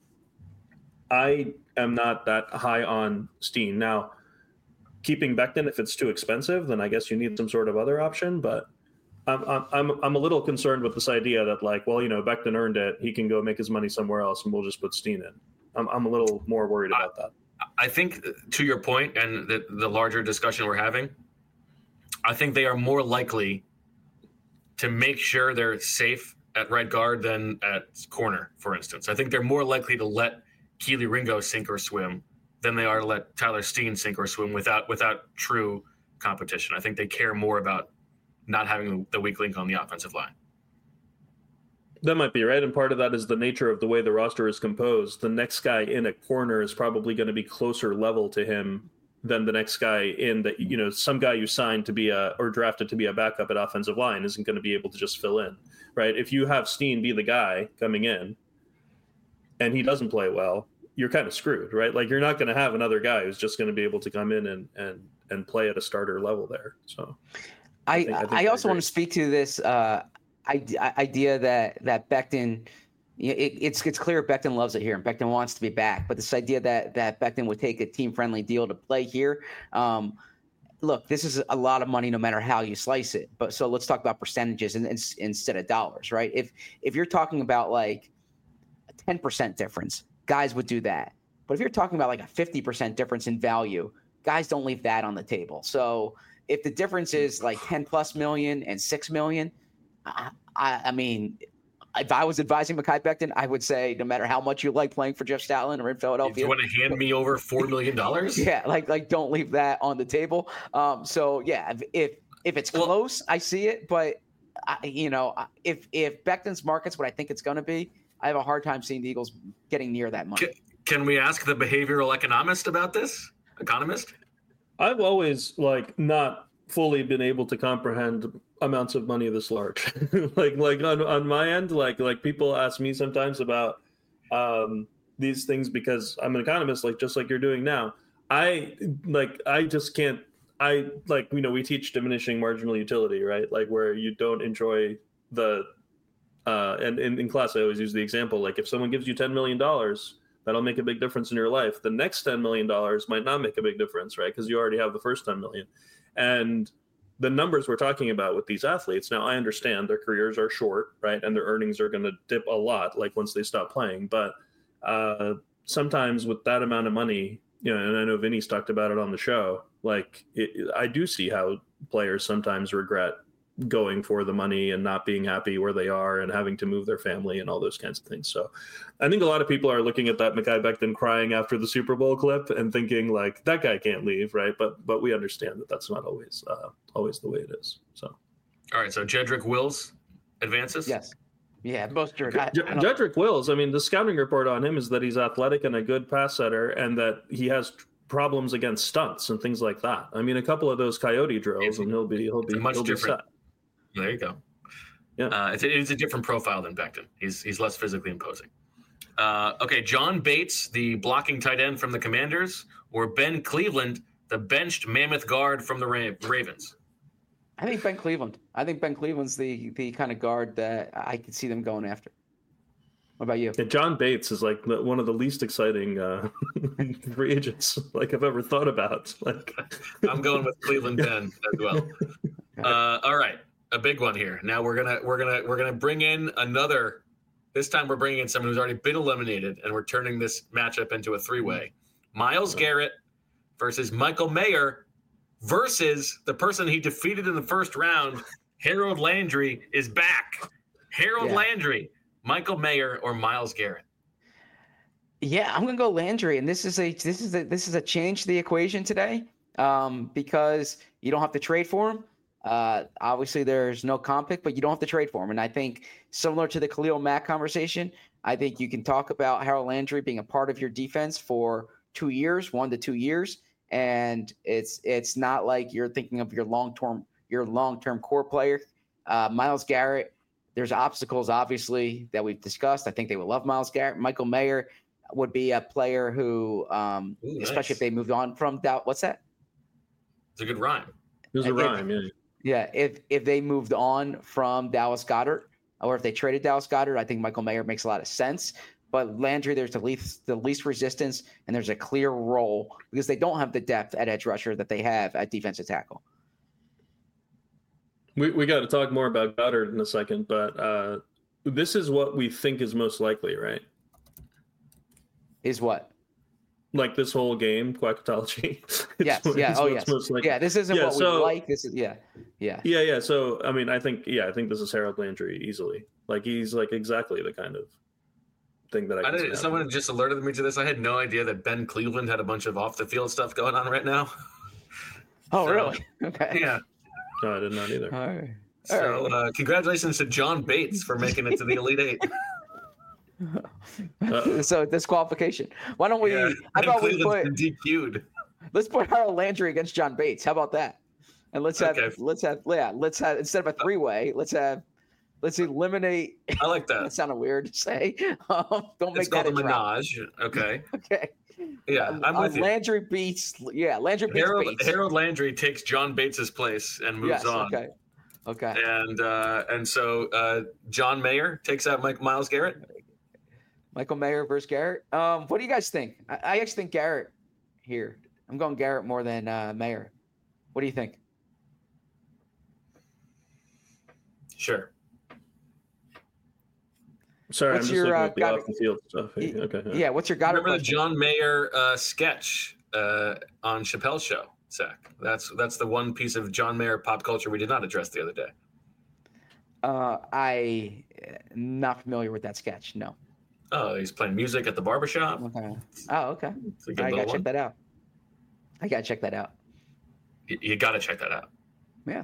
I am not that high on Steen. Now, keeping Becton, if it's too expensive, then I guess you need some sort of other option. But I'm I'm I'm, I'm a little concerned with this idea that like, well, you know, Becton earned it. He can go make his money somewhere else and we'll just put Steen in. I'm I'm a little more worried about that. I think to your point and the, the larger discussion we're having, I think they are more likely to make sure they're safe at right guard than at corner, for instance. I think they're more likely to let Keely Ringo sink or swim than they are to let Tyler Steen sink or swim without without true competition. I think they care more about not having the weak link on the offensive line. That might be right. And part of that is the nature of the way the roster is composed. The next guy in a corner is probably going to be closer level to him than the next guy in that, you know, some guy you signed to be a, or drafted to be a backup at offensive line isn't going to be able to just fill in, right? If you have Steen be the guy coming in and he doesn't play well, you're kind of screwed, right? Like you're not going to have another guy who's just going to be able to come in and, and, and play at a starter level there. So I, I, think, I, think I also want to speak to this, uh, idea that that Becton, it, it's it's clear Becton loves it here and Becton wants to be back. But this idea that that Becton would take a team friendly deal to play here, um, look, this is a lot of money no matter how you slice it. But so let's talk about percentages and, and instead of dollars, right? If if you're talking about like ten percent difference, guys would do that. But if you're talking about like a fifty percent difference in value, guys don't leave that on the table. So if the difference is like ten plus million and six million, I, I, I mean, if I was advising Mekhi Becton, I would say no matter how much you like playing for Jeff Stoutland or in Philadelphia, you want to hand me over four million dollars? Yeah, like like don't leave that on the table. Um, so yeah, if if, if it's well, close, I see it. But I, you know, if if Becton's market's what I think it's going to be, I have a hard time seeing the Eagles getting near that money. Can, can we ask the behavioral economist about this? Economist? I've always like not fully been able to comprehend amounts of money this large. like like on, on my end, like like people ask me sometimes about um, these things because I'm an economist, like just like you're doing now. I like I just can't. I like you know we teach diminishing marginal utility, right? Like where you don't enjoy the uh, and in, in class I always use the example like if someone gives you ten million dollars. That'll make a big difference in your life. The next ten million dollars might not make a big difference, right? Because you already have the first ten million dollars. And the numbers we're talking about with these athletes, now I understand their careers are short, right? And their earnings are going to dip a lot, like once they stop playing. But uh, sometimes with that amount of money, you know, and I know Vinny's talked about it on the show, like it, I do see how players sometimes regret going for the money and not being happy where they are and having to move their family and all those kinds of things. So I think a lot of people are looking at that Mekhi Becton crying after the Super Bowl clip and thinking like that guy can't leave. Right. But, but we understand that that's not always, uh, always the way it is. So. All right. So Jedrick Wills advances. Yes. Yeah. Most sure. I, I Jedrick Wills. I mean, the scouting report on him is that he's athletic and a good pass setter and that he has problems against stunts and things like that. I mean, a couple of those coyote drills it's, and he'll be, he'll be, much he'll different. Be set. There you go. Yeah, uh, it's, a, it's a different profile than Becton. He's he's less physically imposing. Uh, okay, John Bates, the blocking tight end from the Commanders, or Ben Cleveland, the benched mammoth guard from the Ra- Ravens. I think Ben Cleveland. I think Ben Cleveland's the the kind of guard that I could see them going after. What about you? Yeah, John Bates is like the, one of the least exciting uh, free agents like I've ever thought about. Like, I'm going with Cleveland Ben as well. Uh, all right. A big one here. Now we're gonna we're gonna we're gonna bring in another. This time we're bringing in someone who's already been eliminated, and we're turning this matchup into a three-way. Myles Garrett versus Michael Mayer versus the person he defeated in the first round. Harold Landry is back. Harold yeah. Landry, Michael Mayer, or Myles Garrett. Yeah, I'm gonna go Landry, and this is a this is a this is a change to the equation today um, because you don't have to trade for him. Uh, obviously, there's no comp pick, but you don't have to trade for him. And I think similar to the Khalil Mack conversation, I think you can talk about Harold Landry being a part of your defense for two years, one to two years, and it's it's not like you're thinking of your long term your long term core player. Uh, Myles Garrett, there's obstacles obviously that we've discussed. I think they would love Myles Garrett. Michael Mayer would be a player who, um, Ooh, especially nice. if they moved on from Dow. What's that? It's a good rhyme. It was a rhyme, yeah. Yeah, if if they moved on from Dallas Goedert, or if they traded Dallas Goedert, I think Michael Mayer makes a lot of sense. But Landry, there's the least the least resistance, and there's a clear role because they don't have the depth at edge rusher that they have at defensive tackle. We we got to talk more about Goddard in a second, but uh, this is what we think is most likely, right? Is what? Like this whole game, quackatology. Yes, yeah, oh yes, yeah. This isn't yeah, what so, we like. This is yeah, yeah, yeah, yeah. So I mean, I think yeah, I think this is Harold Landry easily. Like he's like exactly the kind of thing that I. I didn't, someone just alerted me to this. I had no idea that Ben Cleveland had a bunch of off the field stuff going on right now. Oh so, really? Okay. Yeah. No, I did not either. All right. All so right. Uh, congratulations to John Bates for making it to the Elite Eight. Uh, so disqualification. Why don't we? Yeah, I thought we put D Q'd. Let's put Harold Landry against John Bates. How about that? And let's have okay. let's have yeah let's have instead of a three way, let's have let's eliminate. I like that. That sounded weird to say. Um, don't make it's that called a menage. Okay. Okay. Yeah, I'm uh, with you. Landry beats. Yeah, Landry beats Harold, Bates. Harold Landry takes John Bates's place and moves yes, on. Okay. Okay. And uh, and so uh, John Mayer takes out Mike Myles Garrett. Michael Mayer versus Garrett. Um, what do you guys think? I, I actually think Garrett here. I'm going Garrett more than uh, Mayer. What do you think? Sure. Sorry, What's I'm just your, looking uh, at the Goddard- off the field stuff. Y- Okay. Yeah, what's your Goddard Remember the question? John Mayer uh, sketch uh, on Chappelle's show, Zach? That's that's the one piece of John Mayer pop culture we did not address the other day. Uh, I am not familiar with that sketch. No. Oh, he's playing music at the barbershop. Okay. Oh, okay. It's a good I little gotta check one. that out. I gotta check that out. You, you got to check that out. Yeah.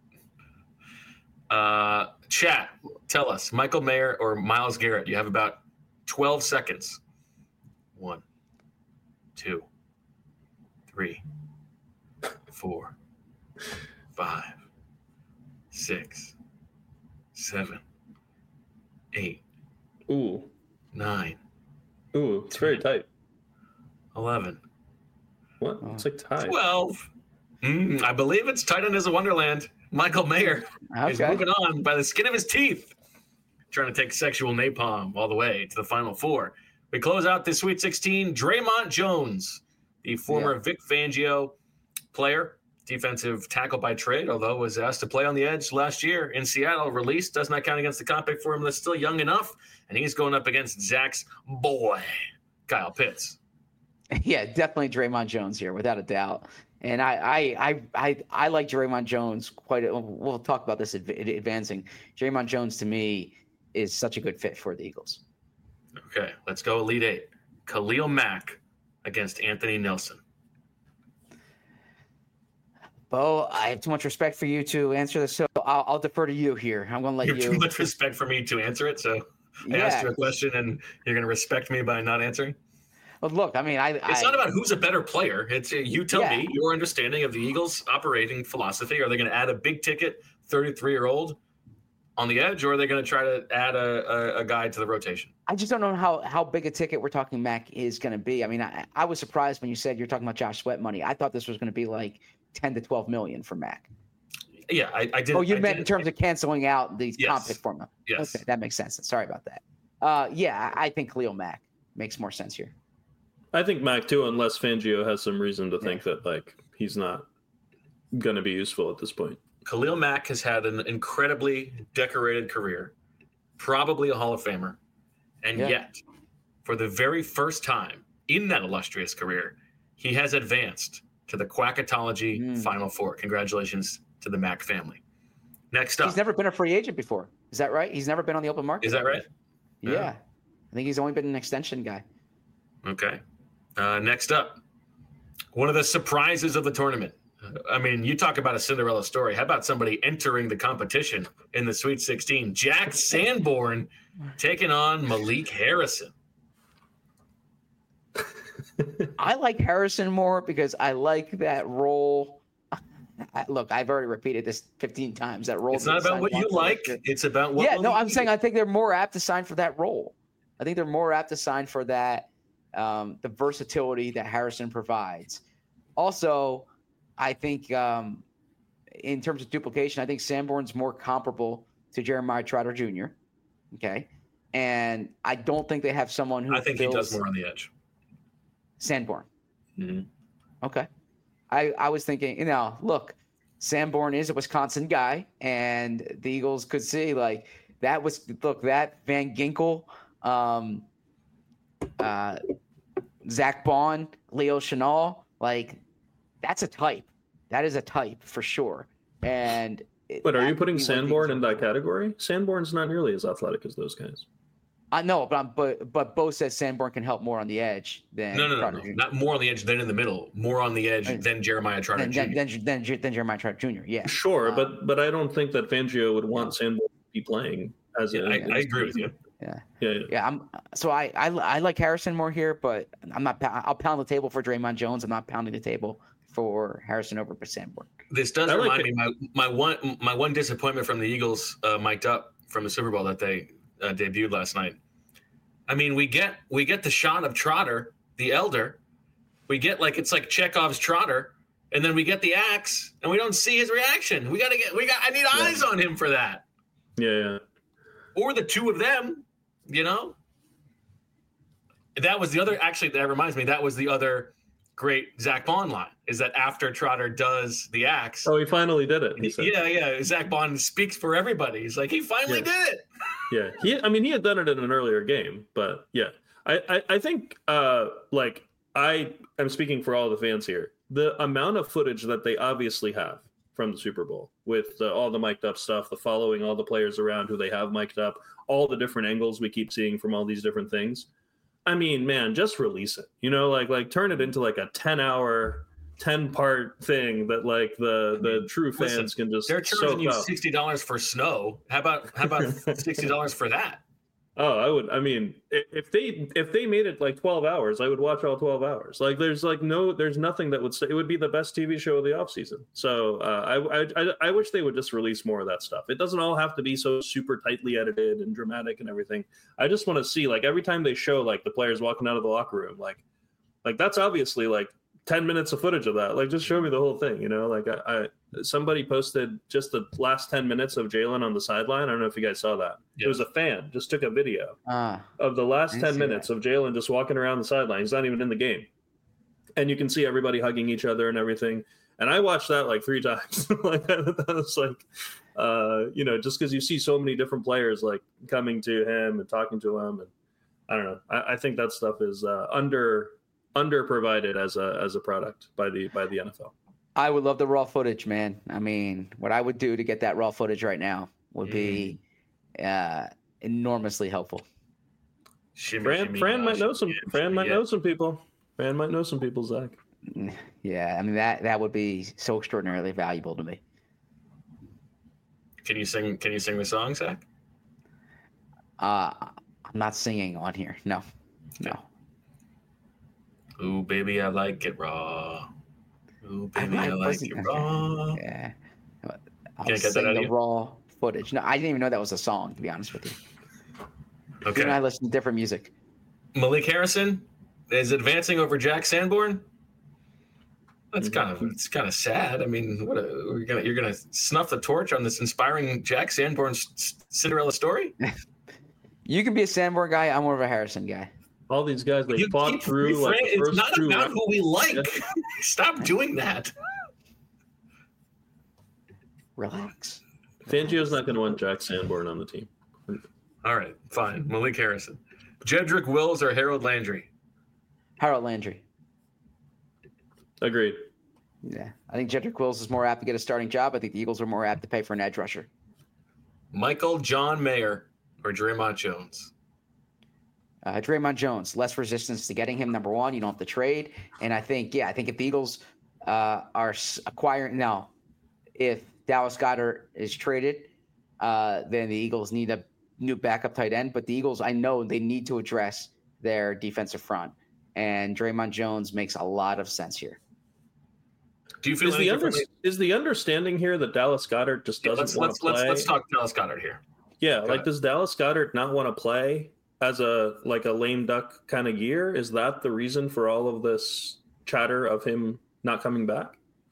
Uh, chat, tell us, Michael Mayer or Myles Garrett? You have about twelve seconds. One, two, three, four, five, six, seven, eight, Ooh, nine, ooh, it's very tight. eleven, What? It's like tied. twelve. Mm, I believe it's tight end as a wonderland. Michael Mayer is Okay. moving on by the skin of his teeth, trying to take sexual napalm all the way to the Final Four. We close out this Sweet sixteen. Draymond Jones, the former Yeah. Vic Fangio player, defensive tackle by trade, although was asked to play on the edge last year in Seattle, released. Does not count against the comp pick for him. That's still young enough. And he's going up against Zach's boy, Kyle Pitts. Yeah, definitely Draymond Jones here, without a doubt. And I, I, I, I, I like Draymond Jones quite. A, we'll talk about this adv- advancing. Draymond Jones to me is such a good fit for the Eagles. Okay, let's go Elite Eight. Khalil Mack against Anthony Nelson. Bo, I have too much respect for you to answer this, so I'll, I'll defer to you here. I'm going to let You have you. too much respect for me to answer it, so I asked you a question and you're going to respect me by not answering? Well, look, I mean, I. It's I, not about who's a better player. It's uh, you tell Yeah. me your understanding of the Eagles' operating philosophy. Are they going to add a big ticket thirty-three-year-old on the edge, or are they going to try to add a, a, a guy to the rotation? I just don't know how, how big a ticket we're talking Mac is going to be. I mean, I, I was surprised when you said you're talking about Josh Sweat money. I thought this was going to be like ten to twelve million for Mac. Yeah, I, I did. Oh, you I meant did- in terms of canceling out the Yes. comp pick formula. Yes. Okay, that makes sense. Sorry about that. Uh, yeah, I I think Khalil Mack makes more sense here. I think Mac too, unless Fangio has some reason to think that like he's not going to be useful at this point. Khalil Mack has had an incredibly decorated career, probably a Hall of Famer, and Yeah. yet, for the very first time in that illustrious career, he has advanced to the Quackatology Mm. Final Four. Congratulations to the Mack family. Next up, He's never been a free agent before. Is that right? He's never been on the open market. is that right? Yeah. Yeah. I think he's only been an extension guy. Okay. Uh, next up, one of the surprises of the tournament. I mean, you talk about a Cinderella story. How about somebody entering the competition in the Sweet sixteen? Jack Sanborn taking on Malik Harrison. I like Harrison more because I like that role. I, look, I've already repeated this fifteen times. That role. It's not didn't about sign what you one for like. next year. It's about what. Yeah, will no, he I'm do. saying I think they're more apt to sign for that role. I think they're more apt to sign for that, um, the versatility that Harrison provides. Also, I think um, in terms of duplication, I think Sanborn's more comparable to Jeremiah Trotter Junior Okay, and I don't think they have someone who I think he fills does more on the edge. Sanborn. Mhm. Okay. I, I was thinking, you know, look, Sanborn is a Wisconsin guy, and the Eagles could see like that was look that Van Ginkel, um, uh, Zach Bond, Leo Chenal, like that's a type. That is a type for sure. And it- But are you that putting would be what the Sanborn Eagles in are that looking for. category? Sanborn's not nearly as athletic as those guys. I know, but I'm, but but Bo says Sanborn can help more on the edge than No, no, no, Trotter no. Junior Not more on the edge than in the middle. More on the edge And- than Jeremiah Trotter Than, Junior than, than, than, than Jeremiah Trotter Junior Yeah. Sure, Uh, but but I don't think that Fangio would want Sanborn to be playing as Yeah, a. I, I agree with you. Yeah. Yeah, yeah. Yeah, I'm so I, I I like Harrison more here, but I'm not. I'll pound the table for Draymond Jones. I'm not pounding the table for Harrison over Sanborn. This does I like remind it. me my my one my one disappointment from the Eagles uh, mic'd up from the Super Bowl that they uh, debuted last night. I mean, we get we get the shot of Trotter, the elder. We get like it's like Chekhov's Trotter, and then we get the axe, and we don't see his reaction. We gotta get we got. I need Yeah. eyes on him for that, Yeah, yeah. or the two of them. You know, that was the other. Actually, that reminds me. That was the other great Zach Bond line is that after Trotter does the axe. Oh, he finally did it. He said. Yeah, yeah. Zach Bond speaks for everybody. He's like, he finally yeah. did it. Yeah, he. I mean, he had done it in an earlier game, but yeah, I, I, I think, uh, like, I am speaking for all the fans here. The amount of footage that they obviously have from the Super Bowl with the, all the mic'd up stuff, the following all the players around who they have mic'd up, all the different angles we keep seeing from all these different things. I mean, man, just release it, you know, like, like turn it into like a ten hour, ten part thing that like the, the true fans Listen, can just, they're charging you up. sixty dollars for snow. How about, how about sixty dollars for that? Oh, I would. I mean, if they if they made it like twelve hours, I would watch all twelve hours. Like, there's like no, there's nothing that would say it would be the best T V show of the offseason. So uh, I, I I wish they would just release more of that stuff. It doesn't all have to be so super tightly edited and dramatic and everything. I just want to see, like, every time they show like the players walking out of the locker room, like like that's obviously like ten minutes of footage of that. Like, just show me the whole thing, you know? Like, I, I somebody posted just the last ten minutes of Jalen on the sideline. I don't know if you guys saw that. Yeah. It was a fan just took a video uh, of the last ten minutes that. of Jalen just walking around the sideline. He's not even in the game. And you can see everybody hugging each other and everything. And I watched that like three times. Like, that was like, uh, you know, just because you see so many different players like coming to him and talking to him. And I don't know. I, I think that stuff is uh, under under provided as a as a product by the by the N F L. I would love the raw footage, man. I mean, what I would do to get that raw footage right now would be uh, enormously helpful. Shimmy, Fran, shimmy, Fran gosh, might know some. yeah, Fran shimmy, might yeah. know some people. Fran might know some people, Zach. Yeah, I mean that that would be so extraordinarily valuable to me. Can you sing? Can you sing the song, Zach? Uh, I'm not singing on here. No, no. Ooh, baby, I like it raw. Ooh, baby, I, I, I like it raw. Yeah. I'll Can't get sing that out the of you? raw footage. No, I didn't even know that was a song, to be honest with you. Okay. You and I listen to different music. Malik Harrison is advancing over Jack Sanborn. That's Mm-hmm. kind of it's kind of sad. I mean, what a, you're gonna you're gonna snuff the torch on this inspiring Jack Sanborn Cinderella story? You can be a Sanborn guy. I'm more of a Harrison guy. All these guys they You fought keep through. Like, the refrain- first it's not two about rounds. who we like. Yeah. Stop doing that. Relax. Fangio's not going to want Jack Sanborn on the team. All right, fine. Malik Harrison, Jedrick Wills, or Harold Landry? Harold Landry. Agreed. Yeah, I think Jedrick Wills is more apt to get a starting job. I think the Eagles are more apt to pay for an edge rusher. Michael John Mayer or Draymond Jones? Uh, Draymond Jones, less resistance to getting him. Number one, you don't have to trade. And I think, yeah, I think if the Eagles uh, are acquiring now, if Dallas Goedert is traded, uh, then the Eagles need a new backup tight end. But the Eagles, I know they need to address their defensive front. And Draymond Jones makes a lot of sense here. Do you feel Is the, under, is the understanding here that Dallas Goedert just doesn't let's, want let's, to play? Let's, let's talk Dallas Goedert here. Yeah, Go like ahead. Does Dallas Goedert not want to play as a like a lame duck kind of year? Is that the reason for all of this chatter of him not coming back?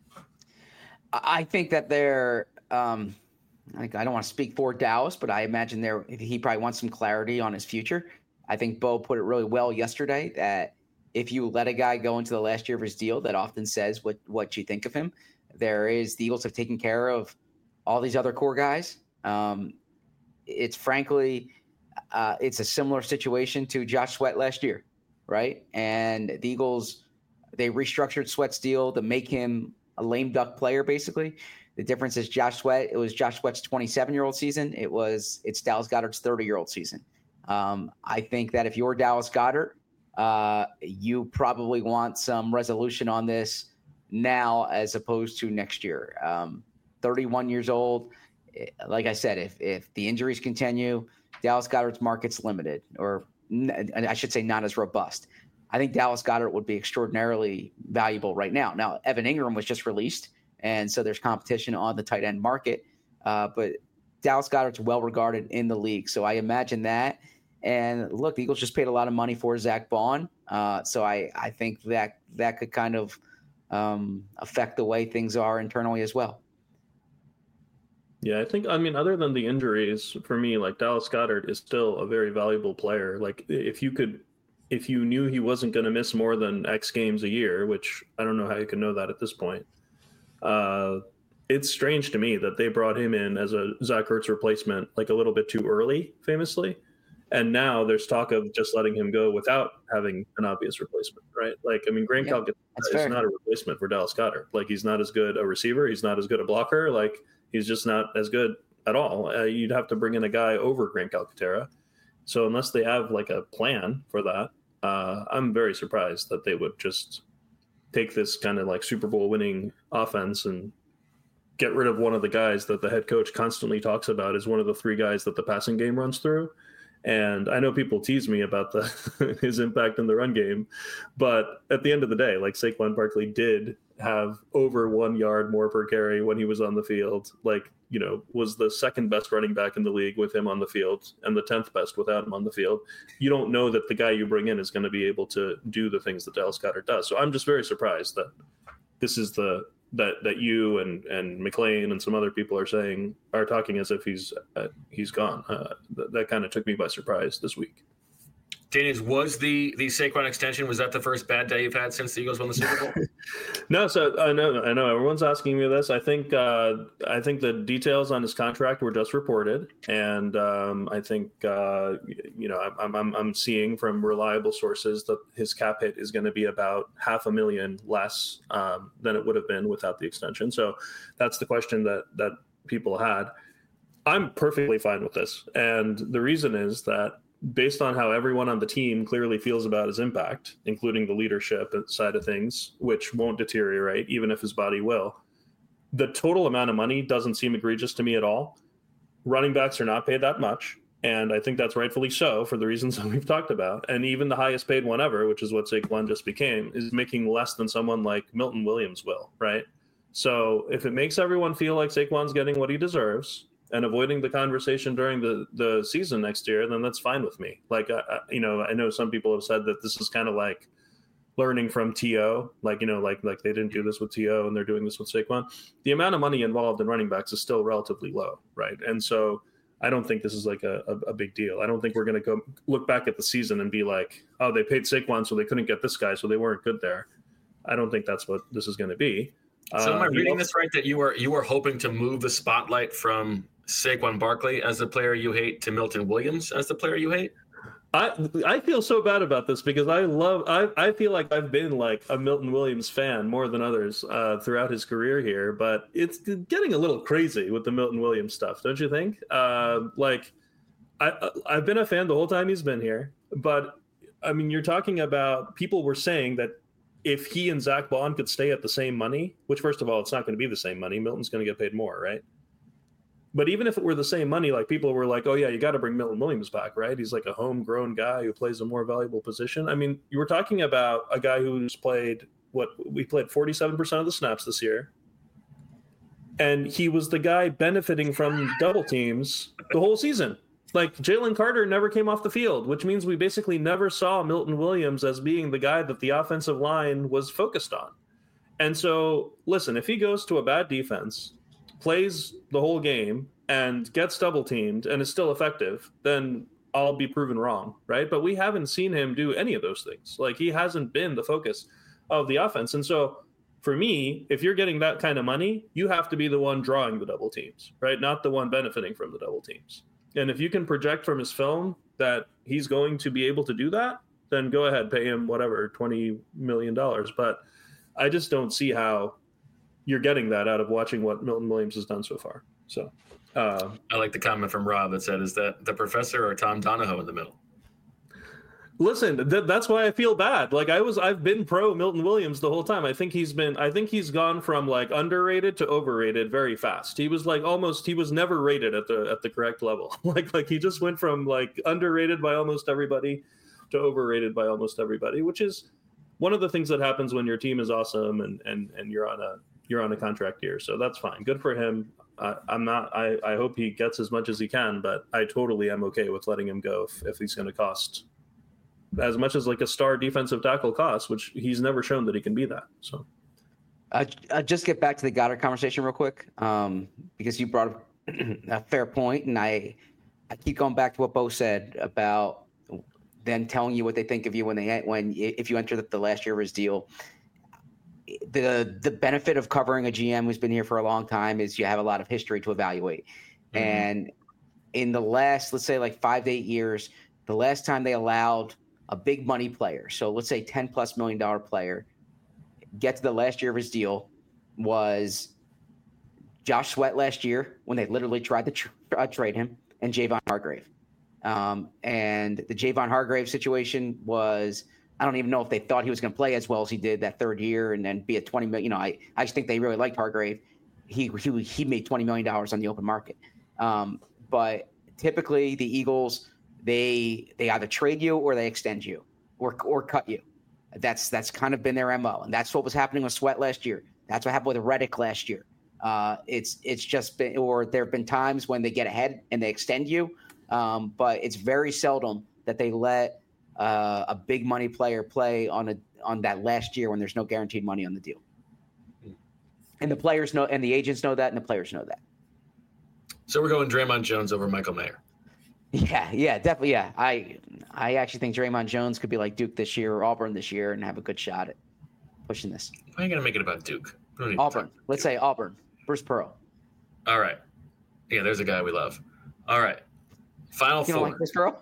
I think that they're um, like I don't want to speak for Dallas, but I imagine there he probably wants some clarity on his future. I think Bo put it really well yesterday that if you let a guy go into the last year of his deal, that often says what what you think of him. There is the Eagles have taken care of all these other core guys. Um, it's frankly, uh, it's a similar situation to Josh Sweat last year, right? And the Eagles, they restructured Sweat's deal to make him a lame duck player, basically. The difference is Josh Sweat. It was Josh Sweat's twenty-seven-year-old season. It was it's Dallas Goedert's thirty-year-old season. Um, I think that if you're Dallas Goedert, uh, you probably want some resolution on this now as opposed to next year. Um, thirty-one years old. Like I said, if if the injuries continue, Dallas Goedert's market's limited, or I should say not as robust. I think Dallas Goedert would be extraordinarily valuable right now. Now, Evan Ingram was just released, and so there's competition on the tight end market. Uh, but Dallas Goedert's well regarded in the league, so I imagine that. And look, the Eagles just paid a lot of money for Zach Bond, uh, so I, I think that that could kind of um, affect the way things are internally as well. Yeah, I think, I mean, other than the injuries, for me, like Dallas Goedert is still a very valuable player. Like if you could if you knew he wasn't going to miss more than X games a year, which I don't know how you can know that at this point, uh, it's strange to me that they brought him in as a Zach Ertz replacement like a little bit too early, famously. And now there's talk of just letting him go without having an obvious replacement, right? Like, I mean, Grant Yeah, Calcaterra is fair. not a replacement for Dallas Goedert. Like, he's not as good a receiver. He's not as good a blocker. Like, he's just not as good at all. Uh, you'd have to bring in a guy over Grant Calcaterra. So unless they have like a plan for that, uh, I'm very surprised that they would just take this kind of like Super Bowl winning offense and get rid of one of the guys that the head coach constantly talks about as one of the three guys that the passing game runs through. And I know people tease me about the his impact in the run game, but at the end of the day, like Saquon Barkley did have over one yard more per carry when he was on the field. Like, you know, was the second best running back in the league with him on the field and the tenth best without him on the field. You don't know that the guy you bring in is going to be able to do the things that Dallas Goedert does. So I'm just very surprised that this is the that that you and and McLean and some other people are saying are talking as if he's uh, he's gone. Uh, th- that kind of took me by surprise this week. Daniels, was the the Saquon extension, was that the first bad day you've had since the Eagles won the Super Bowl? No, so I know I know everyone's asking me this. I think uh, I think the details on his contract were just reported, and um, I think uh, you know I'm, I'm I'm seeing from reliable sources that his cap hit is going to be about half a million less um, than it would have been without the extension. So that's the question that that people had. I'm perfectly fine with this, and the reason is that, based on how everyone on the team clearly feels about his impact, including the leadership side of things, which won't deteriorate even if his body will, the total amount of money doesn't seem egregious to me at all. Running backs are not paid that much, and I think that's rightfully so for the reasons that we've talked about. And even the highest paid one ever, which is what Saquon just became, is making less than someone like Milton Williams will, right? So if it makes everyone feel like Saquon's getting what he deserves and avoiding the conversation during the, the season next year, then that's fine with me. Like, I, I, you know, I know some people have said that this is kind of like learning from T O, like, you know, like, like they didn't do this with T O and they're doing this with Saquon. The amount of money involved in running backs is still relatively low, right? And so I don't think this is like a, a, a big deal. I don't think we're going to go look back at the season and be like, oh, they paid Saquon so they couldn't get this guy, so they weren't good there. I don't think that's what this is going to be. So am I uh, reading you know, this right, that you were you were hoping to move the spotlight from Saquon Barkley as the player you hate to Milton Williams as the player you hate? I I feel so bad about this because I love I I feel like I've been like a Milton Williams fan more than others uh, throughout his career here, but it's getting a little crazy with the Milton Williams stuff, don't you think? Uh, like I I've been a fan the whole time he's been here, but I mean, you're talking about, people were saying that if he and Zach Bond could stay at the same money, which first of all, it's not going to be the same money. Milton's going to get paid more, right? But even if it were the same money, like, people were like, oh yeah, you got to bring Milton Williams back, right? He's like a homegrown guy who plays a more valuable position. I mean, you were talking about a guy who's played what we played forty-seven percent of the snaps this year. And he was the guy benefiting from double teams the whole season. Like, Jalen Carter never came off the field, which means we basically never saw Milton Williams as being the guy that the offensive line was focused on. And so, listen, if he goes to a bad defense, plays the whole game, and gets double teamed and is still effective, then I'll be proven wrong, right? But we haven't seen him do any of those things. Like, he hasn't been the focus of the offense. And so, for me, if you're getting that kind of money, you have to be the one drawing the double teams, right? Not the one benefiting from the double teams. And if you can project from his film that he's going to be able to do that, then go ahead, pay him whatever, twenty million dollars. But I just don't see how you're getting that out of watching what Milton Williams has done so far. So uh, I like the comment from Rob that said, is that the professor or Tom Donahoe in the middle? Listen, th- that's why I feel bad. Like, I was, I've been pro Milton Williams the whole time. I think he's been, I think he's gone from like underrated to overrated very fast. He was like almost, he was never rated at the at the correct level. like, like he just went from like underrated by almost everybody to overrated by almost everybody, which is one of the things that happens when your team is awesome and and and you're on a you're on a contract year. So that's fine. Good for him. Uh, I'm not. I I hope he gets as much as he can, but I totally am okay with letting him go if, if he's going to cost as much as like a star defensive tackle costs, which he's never shown that he can be that. So, uh, uh, just get back to the Goddard conversation real quick, um, because you brought up a fair point, and I, I keep going back to what Bo said about them telling you what they think of you when they when if you enter the, the last year of his deal. The the benefit of covering a G M who's been here for a long time is you have a lot of history to evaluate. Mm-hmm. And in the last, let's say like five to eight years, the last time they allowed a big money player, so let's say ten plus million dollar player, get to the last year of his deal was Josh Sweat last year when they literally tried to tr- uh, trade him, and Javon Hargrave. Um, and the Javon Hargrave situation was, I don't even know if they thought he was going to play as well as he did that third year and then be at twenty million. You know, I, I just think they really liked Hargrave. He, he, he made twenty million dollars on the open market. Um, but typically the Eagles, they, they either trade you or they extend you or, or cut you. That's, that's kind of been their M O. And that's what was happening with Sweat last year. That's what happened with Reddick last year. Uh, it's, it's just been, or there've been times when they get ahead and they extend you. Um, but it's very seldom that they let, Uh, a big money player play on a on that last year when there's no guaranteed money on the deal, and the players know, and the agents know that, and the players know that. So we're going Draymond Jones over Michael Mayer. Yeah, yeah, definitely. Yeah, I I actually think Draymond Jones could be like Duke this year or Auburn this year and have a good shot at pushing this. Why are you gonna make it about Duke? Auburn. Let's say Auburn. Bruce Pearl. All right. Yeah, there's a guy we love. All right. Final you four. You don't like Bruce Pearl?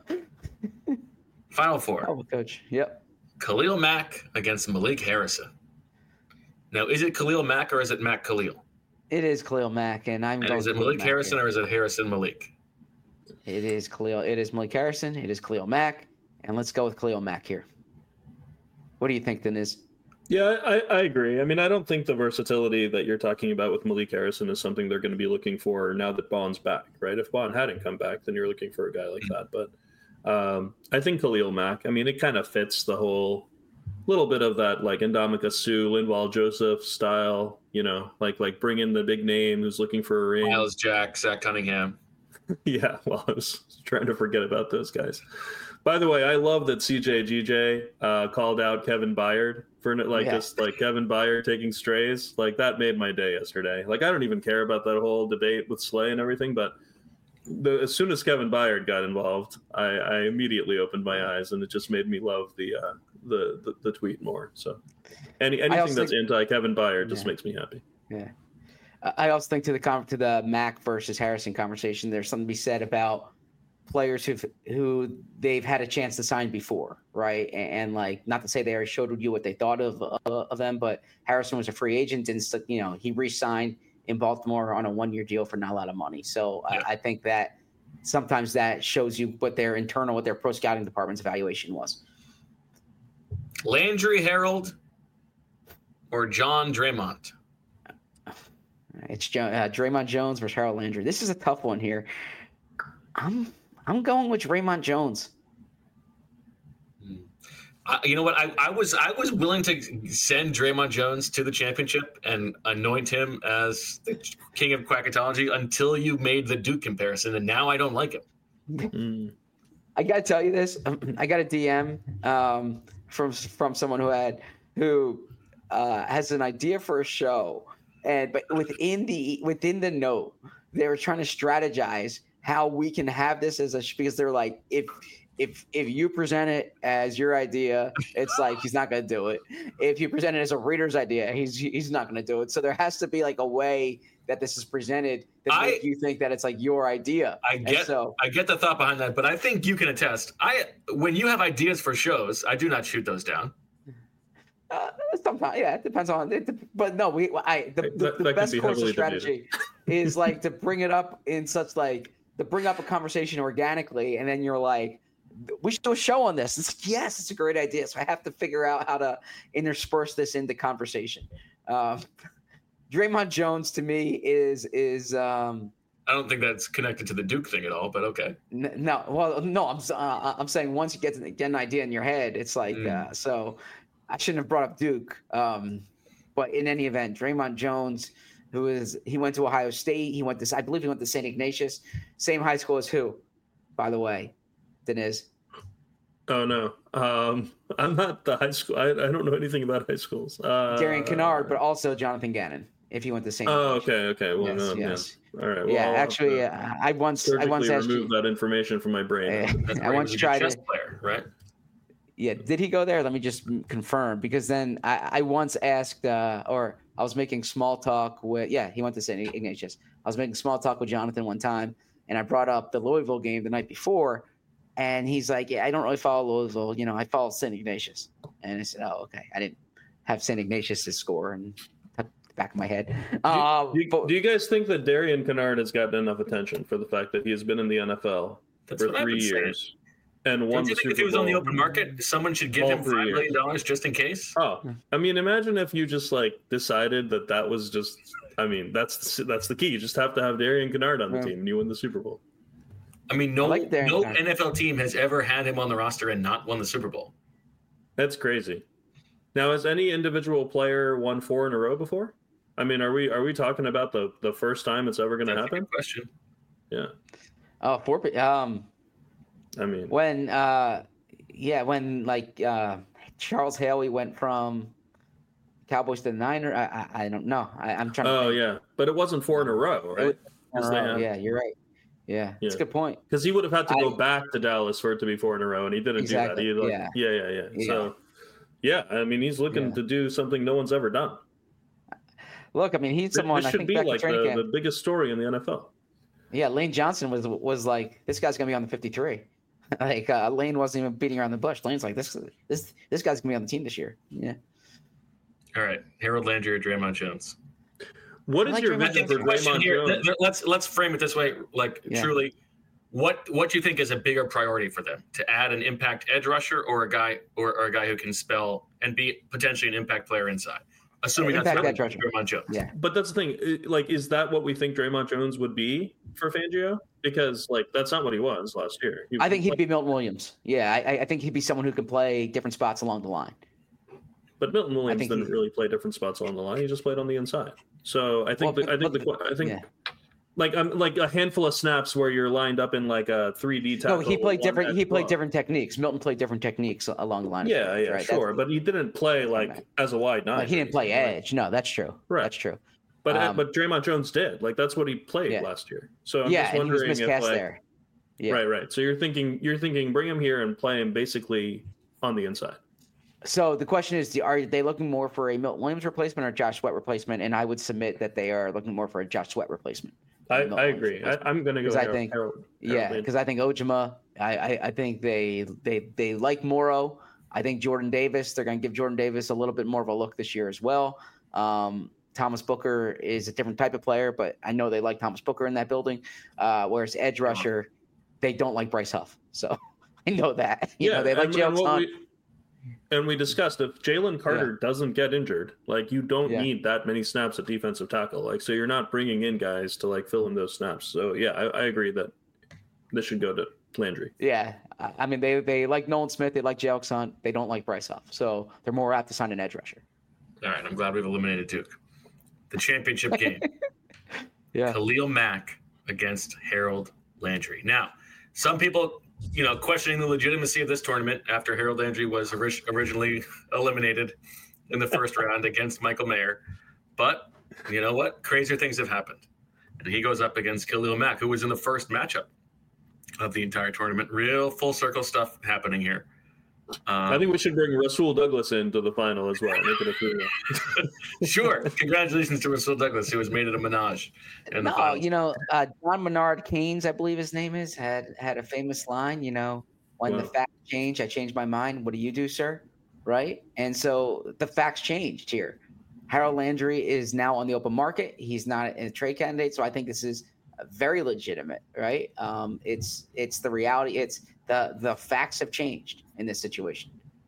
Final four. Oh, coach. Yep. Khalil Mack against Malik Harrison. Now, is it Khalil Mack or is it Mack Khalil? It is Khalil Mack, and I'm. And going is it Malik Harrison here. Or is it Harrison Malik? It is Khalil. It is Malik Harrison. It is Khalil Mack, and let's go with Khalil Mack here. What do you think, Deniz? Yeah, I, I agree. I mean, I don't think the versatility that you're talking about with Malik Harrison is something they're going to be looking for now that Bond's back, right? If Bond hadn't come back, then you're looking for a guy like that, but. Um, I think Khalil Mack, I mean, it kind of fits the whole little bit of that, like Ndamukong Suh, Linval Joseph style, you know, like, like bring in the big name who's looking for a ring. Miles Jack, Zach Cunningham. Yeah. Well, I was trying to forget about those guys. By the way, I love that C J G J, uh, called out Kevin Byard for like yeah. just like Kevin Byard taking strays. Like that made my day yesterday. Like, I don't even care about that whole debate with Slay and everything, but The, as soon as Kevin Byard got involved, I, I immediately opened my eyes, and it just made me love the uh, the, the the tweet more. So, any anything that's think, anti Kevin Byard just yeah. makes me happy. Yeah, I also think to the to the Mack versus Harrison conversation, there's something to be said about players who who they've had a chance to sign before, right? And, and like, not to say they already showed you what they thought of uh, of them, but Harrison was a free agent, and you know he re-signed in Baltimore on a one-year deal for not a lot of money. So yeah. I, I think that sometimes that shows you what their internal, what their pro scouting department's evaluation was. Landry Harold or John Draymond? It's uh, Draymond Jones versus Harold Landry. This is a tough one here. I'm I'm going with Draymond Jones. Uh, you know what? I, I was I was willing to send Draymond Jones to the championship and anoint him as the king of quackatology until you made the Duke comparison, and now I don't like him. Mm. I got to tell you this. I got a D M um, from from someone who had who uh, has an idea for a show, and but within the within the note, they were trying to strategize how we can have this as a because they're like if. If if you present it as your idea, it's like he's not going to do it. If you present it as a reader's idea, he's he's not going to do it. So there has to be like a way that this is presented that I, make you think that it's like your idea. I get so, I get the thought behind that, but I think you can attest. I when you have ideas for shows, I do not shoot those down. Uh, sometimes, yeah, it depends on it. But no, we I the, the, that, the that best course of strategy is like to bring it up in such like to bring up a conversation organically, and then you're like. We should do a show on this. It's like, yes, it's a great idea. So I have to figure out how to intersperse this into conversation. Um, Draymond Jones to me is is. Um, I don't think that's connected to the Duke thing at all, but okay. N- no, well, no, I'm uh, I'm saying once you get, to, get an idea in your head, it's like mm. uh, so. I shouldn't have brought up Duke, um, but in any event, Draymond Jones, who is he went to Ohio State. He went to I believe he went to Saint Ignatius, same high school as who, by the way. Deniz. Oh no, um, I'm not the high school. I, I don't know anything about high schools. Uh, Darian Kennard, but also Jonathan Gannon. If he went to Saint Oh, okay, okay. Well, yes, no, yes. Yeah. All right. Well, yeah, I'll actually, uh, I once, I once asked remove you, that information from my brain. Uh, I once tried a chess to. Player, right? Yeah, did he go there? Let me just confirm, because then I, I once asked, uh, or I was making small talk with, yeah, he went to Saint Ignatius. I was making small talk with Jonathan one time, and I brought up the Louisville game the night before, and he's like, yeah, I don't really follow Louisville. You know, I follow Saint Ignatius. And I said, oh, okay. I didn't have Saint Ignatius to score and the back of my head. Um, do, you, but, do you guys think that Darian Kennard has gotten enough attention for the fact that he has been in the N F L That's for three years? Saying. And Don't you think if he was on the open market, someone should give him five million dollars just in case? Oh, I mean, imagine if you just like decided that that was just. I mean, that's that's the key. You just have to have Darian Kennard on the yeah. team, and you win the Super Bowl. I mean, no, I like no N F L team has ever had him on the roster and not won the Super Bowl. That's crazy. Now, has any individual player won four in a row before? I mean, are we are we talking about the the first time it's ever going to happen? A good question. Yeah. Oh, four. Um. I mean, when, uh, yeah, when like uh, Charles Haley went from Cowboys to the Niners, I, I, I don't know. I, I'm trying. Oh to yeah, but it wasn't four in a row, right? In a row. Yeah, you're right. Yeah, yeah. That's a good point. Because he would have had to go I, back to Dallas for it to be four in a row, and he didn't exactly. do that. He, like, yeah. yeah, yeah, yeah, yeah. So, yeah, I mean, he's looking yeah. to do something no one's ever done. Look, I mean, he's someone. This should I think be back like in the, camp, the biggest story in the N F L. Yeah, Lane Johnson was was like, this guy's gonna be on the fifty-three. Like uh, Lane wasn't even beating around the bush. Lane's like, this this this guy's gonna be on the team this year. Yeah. All right, Harold Landry or Draymond Jones. What is like your Draymond vision for Draymond here, Jones? Let's let's frame it this way. Like yeah. truly, what what do you think is a bigger priority for them? To add an impact edge rusher or a guy or, or a guy who can spell and be potentially an impact player inside? Assuming impact that's edge Draymond Jones. Yeah. But that's the thing. Like, is that what we think Draymond Jones would be for Fangio? Because like that's not what he was last year. I think he'd be Milton Williams. Yeah, I, I think he'd be someone who could play different spots along the line. But Milton Williams didn't really play different spots along the line. He just played on the inside. So I think well, the, I think the, I think yeah. like um, like a handful of snaps where you're lined up in like a three D tackle. No, he played different. He played club. different techniques. Milton played different techniques along the line. Yeah, play, yeah, right? sure. That's, but he didn't play like right. as a wide nine. Like he didn't play edge. Right? No, that's true. Right. That's true. But um, but Draymond Jones did. Like that's what he played yeah. last year. So I'm yeah, just wondering and he was miscast if like, there. Yeah. Right, right. So you're thinking you're thinking bring him here and play him basically on the inside. So the question is, are they looking more for a Milton Williams replacement or Josh Sweat replacement? And I would submit that they are looking more for a Josh Sweat replacement. I, I agree. I, I'm going to go. I think, Harold, Harold yeah, because I think Ojima. I, I, I think they they they like Morrow. I think Jordan Davis. They're going to give Jordan Davis a little bit more of a look this year as well. Um, Thomas Booker is a different type of player, but I know they like Thomas Booker in that building. Uh, whereas edge rusher, they don't like Bryce Huff. So I know that. You yeah, know, they like Jalen Hunt. And we discussed if Jalen Carter yeah. doesn't get injured, like you don't yeah. need that many snaps at defensive tackle. Like, so you're not bringing in guys to like fill in those snaps. So yeah, I, I agree that this should go to Landry. Yeah. I mean, they, they like Nolan Smith. They like Jalen Hunt. They don't like Bryce Huff. So they're more apt to sign an edge rusher. All right. I'm glad we've eliminated Duke. The championship game. yeah. Khalil Mack against Harold Landry. Now, some people, you know, questioning the legitimacy of this tournament after Harold Landry was ori- originally eliminated in the first round against Michael Mayer. But you know what? Crazier things have happened. And he goes up against Khalil Mack, who was in the first matchup of the entire tournament. Real full circle stuff happening here. Um, I think we should bring Rasul Douglas into the final as well. Make it a Sure. Congratulations to Rasul Douglas, who has made it a menage. In no, the finals. you know, uh, John Menard Keynes, I believe his name is, had had a famous line, you know, when wow. the facts change, I change my mind. What do you do, sir? Right? And so the facts changed here. Harold Landry is now on the open market. He's not a trade candidate. So I think this is very legitimate, right? Um, it's it's the reality. It's the the facts have changed in this situation.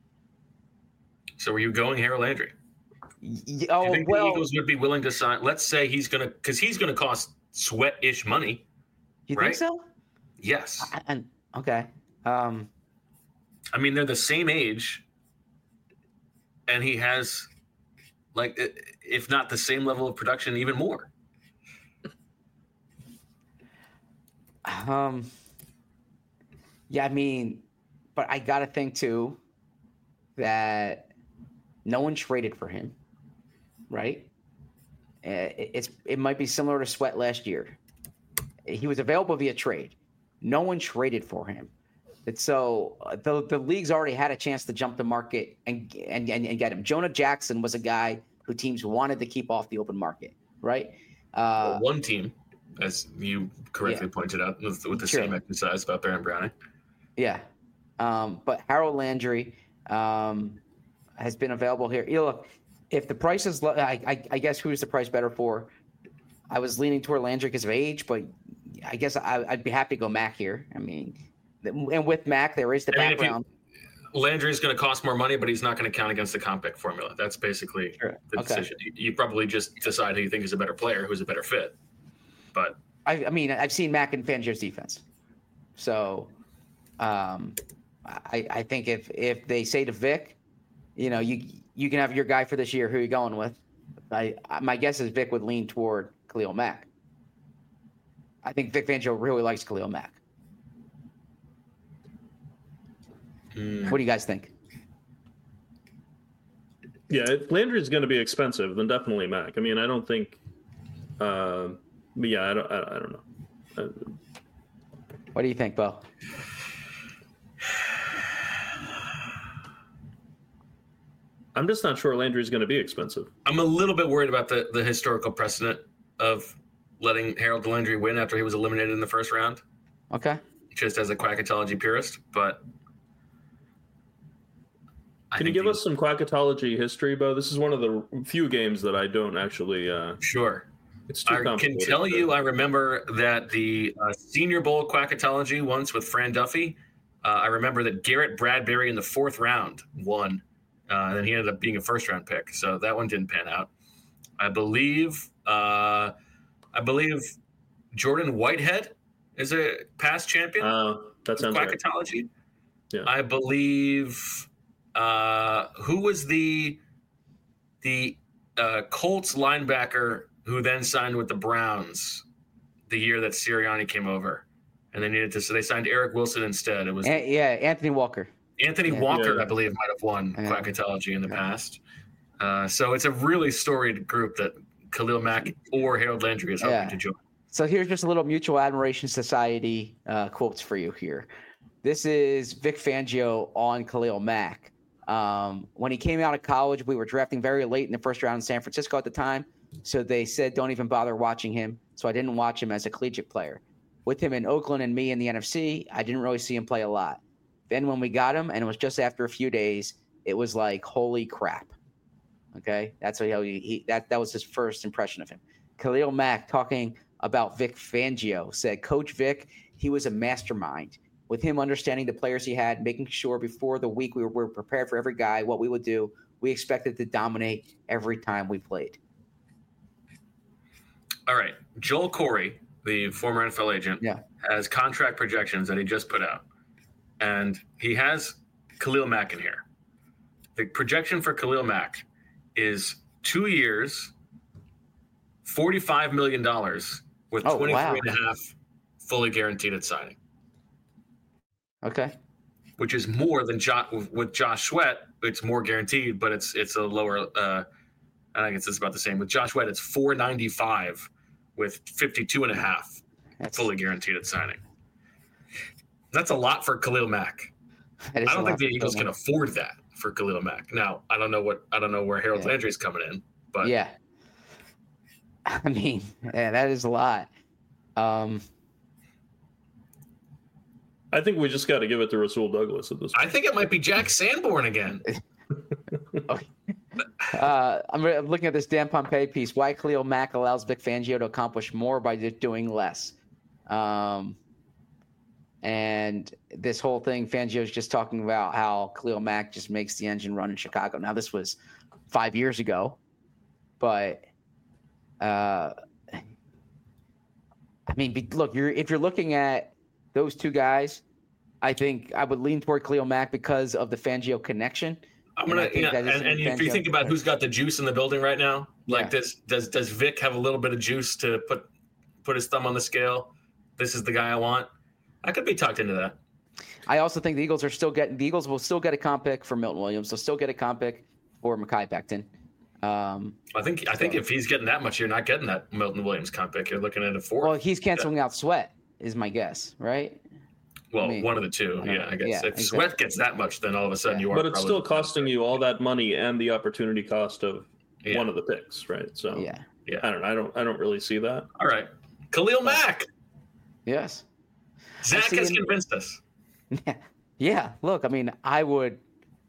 So are you going Harold Landry? Y- oh, do you think well, the Eagles would be willing to sign? Let's say he's going to, because he's going to cost Sweat-ish money. You right? think so? Yes. I, and okay. Um, I mean, they're the same age, and he has, like, if not the same level of production, even more. Um. Yeah, I mean, but I got to think too that no one traded for him, right? Uh, it's it might be similar to Sweat last year. He was available via trade. No one traded for him. It's so uh, the the league's already had a chance to jump the market and and and, and get him. Jonah Jackson was a guy who teams wanted to keep off the open market, right? Uh, well, one team, as you correctly yeah. pointed out, with, with the sure. same exercise about Baron Browning. Yeah, um, but Harold Landry um, has been available here. You know, look, if the price is, I, I, I guess who's the price better for? I was leaning toward Landry because of age, but I guess I, I'd be happy to go Mac here. I mean. And with Mac, there is the I background. Mean, Landry is going to cost more money, but he's not going to count against the comp pick formula. That's basically sure. the okay. decision. You, you probably just decide who you think is a better player, who's a better fit. But I, I mean, I've seen Mac in Fangio's defense, so um, I, I think if if they say to Vic, you know, you you can have your guy for this year. Who are you going with? I my guess is Vic would lean toward Khalil Mack. I think Vic Fangio really likes Khalil Mack. What do you guys think? Yeah, if Landry is going to be expensive, then definitely Mac. I mean, I don't think. Uh, but yeah, I don't. I, I don't know. Uh, what do you think, Bo? I'm just not sure Landry is going to be expensive. I'm a little bit worried about the, the historical precedent of letting Harold Landry win after he was eliminated in the first round. Okay. Just as a quackatology purist, but. I Can you give he, us some quackatology history, Bo? This is one of the few games that I don't actually. Uh, sure. It's too I can tell you, I remember that the uh, Senior Bowl quackatology once with Fran Duffy. Uh, I remember that Garrett Bradbury in the fourth round won, uh, and then he ended up being a first round pick. So that one didn't pan out. I believe. Uh, I believe Jordan Whitehead is a past champion. Uh, that sounds quackatology. Right. Yeah. I believe. Uh, who was the the uh, Colts linebacker who then signed with the Browns the year that Sirianni came over, and they needed to so they signed Eric Wilson instead. It was An- yeah, Anthony Walker. Anthony yeah. Walker, yeah. I believe, might have won yeah. quackatology in the yeah. past. Uh, so it's a really storied group that Khalil Mack or Harold Landry is hoping yeah. to join. So here's just a little Mutual Admiration Society uh, quotes for you here. This is Vic Fangio on Khalil Mack. Um, when he came out of college, we were drafting very late in the first round in San Francisco at the time. So they said, don't even bother watching him. So I didn't watch him as a collegiate player. With him in Oakland and me in the N F C, I didn't really see him play a lot. Then when we got him, and it was just after a few days, it was like, holy crap. Okay. That's how he, he that, that was his first impression of him. Khalil Mack talking about Vic Fangio said, Coach Vic, he was a mastermind. With him understanding the players he had, making sure before the week we were, we were prepared for every guy, what we would do. We expected to dominate every time we played. All right. Joel Corey, the former N F L agent, yeah. has contract projections that he just put out. And he has Khalil Mack in here. The projection for Khalil Mack is two years, forty-five million dollars with oh, twenty-three wow. and a half fully guaranteed at signing. Okay. Which is more than jo- with Josh Sweat. It's more guaranteed, but it's it's a lower. Uh, I guess it's about the same with Josh Sweat. It's four ninety-five with fifty-two and a half That's, fully guaranteed at signing. That's a lot for Khalil Mack. I don't think the Eagles can afford that for Khalil Mack. Now, I don't know what I don't know where Harold yeah. Landry's coming in, but yeah. I mean, yeah, that is a lot. Um, I think we just got to give it to Rasul Douglas at this point. I think it might be Jack Sanborn again. okay. uh, I'm, I'm looking at this Dan Pompei piece. Why Khalil Mack allows Vic Fangio to accomplish more by just doing less. Um, and this whole thing, Fangio's just talking about how Khalil Mack just makes the engine run in Chicago. Now, this was five years ago, but uh, I mean, be, look, you're if you're looking at those two guys, I think I would lean toward Khalil Mack because of the Fangio connection. I'm gonna, yeah, and, and if you think about who's got the juice in the building right now, like yeah. does does does Vic have a little bit of juice to put put his thumb on the scale? This is the guy I want. I could be talked into that. I also think the Eagles are still getting the Eagles will still get a comp pick for Milton Williams. They'll still get a comp pick for Mekhi Becton. Um, I think I so. think if he's getting that much, you're not getting that Milton Williams comp pick. You're looking at a four. Well, he's canceling yeah. out Sweat, is my guess, right? Well, I mean, one of the two. I Yeah, I guess yeah, if exactly. Sweat gets that much, then all of a sudden Yeah. you are. But it's probably still costing you all that money and the opportunity cost of Yeah. one of the picks, right? So Yeah. Yeah. I don't know. I don't. I don't really see that. All right. Khalil Mack. Yes. Zach see has in- convinced us. Yeah. Look, I mean, I would,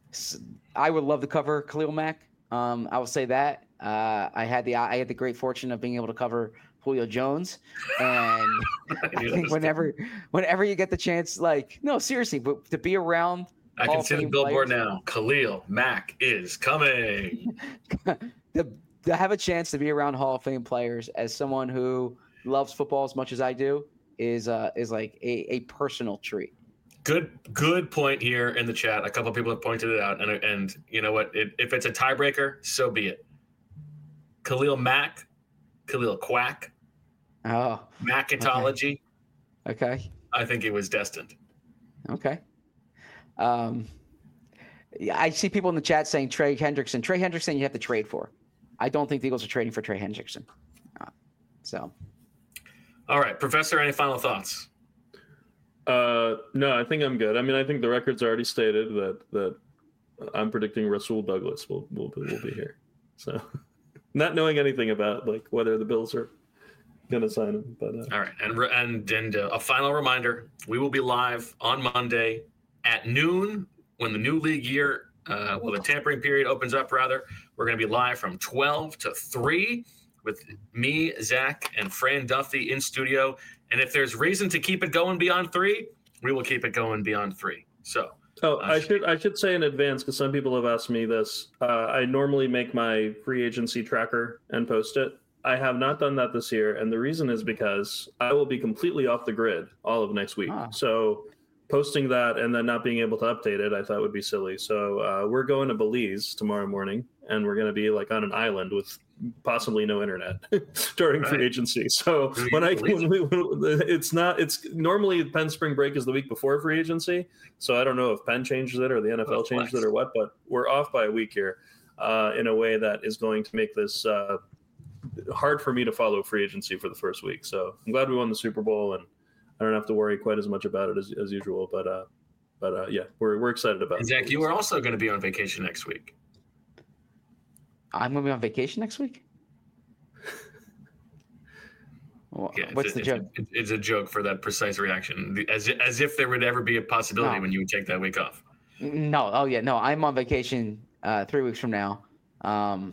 I would love to cover Khalil Mack. Um, I will say that. Uh, I had the I had the great fortune of being able to cover Julio Jones, and I think whenever whenever you get the chance, like no, seriously, but to be around. I Hall can of see the Fame billboard players, now. Khalil Mack is coming. to, to have a chance to be around Hall of Fame players as someone who loves football as much as I do is uh, is like a, a personal treat. Good, good point here in the chat. A couple of people have pointed it out, and and you know what? It, if it's a tiebreaker, so be it. Khalil Mack, Khalil Quack, Oh, Macketology. okay, I think it was destined. okay. Um, yeah, I see people in the chat saying Trey Hendrickson. Trey Hendrickson, you have to trade for. I don't think the Eagles are trading for Trey Hendrickson. Uh, so, All right, Professor, any final thoughts? Uh, no, I think I'm good. I mean, I think the record's already stated that that I'm predicting Rasul Douglas will will will be here. So, not knowing anything about like whether the Bills are going to sign him, but uh, All right, and and and uh, a final reminder: we will be live on Monday at noon when the new league year, uh, well, the tampering period opens up. Rather, we're going to be live from twelve to three with me, Zach, and Fran Duffy in studio. And if there's reason to keep it going beyond three, we will keep it going beyond three. So. Oh, Uh, I should I should say in advance because some people have asked me this. Uh, I normally make my free agency tracker and post it. I have not done that this year, and the reason is because I will be completely off the grid all of next week. Ah. So posting that and then not being able to update it, I thought would be silly. So uh, we're going to Belize tomorrow morning, and we're going to be like on an island with possibly no internet during Right. free agency. So Really? when I when we, when, it's not it's normally Penn spring break is the week before free agency. So I don't know if Penn changes it or the N F L Oh, changes flex. it or what, but we're off by a week here uh, in a way that is going to make this uh, hard for me to follow free agency for the first week. So I'm glad we won the Super Bowl and I don't have to worry quite as much about it as, as usual. But uh, but uh, yeah, we're we're excited about And it. Zach, you are also going to be on vacation next week. I'm going to be on vacation next week. Wha- Yeah, it's What's a, the it's a- joke? it's a joke for that precise reaction, The- as as if there would ever be a possibility No. when you would take that week off. No, oh yeah, no, I'm on vacation uh, three weeks from now. Um,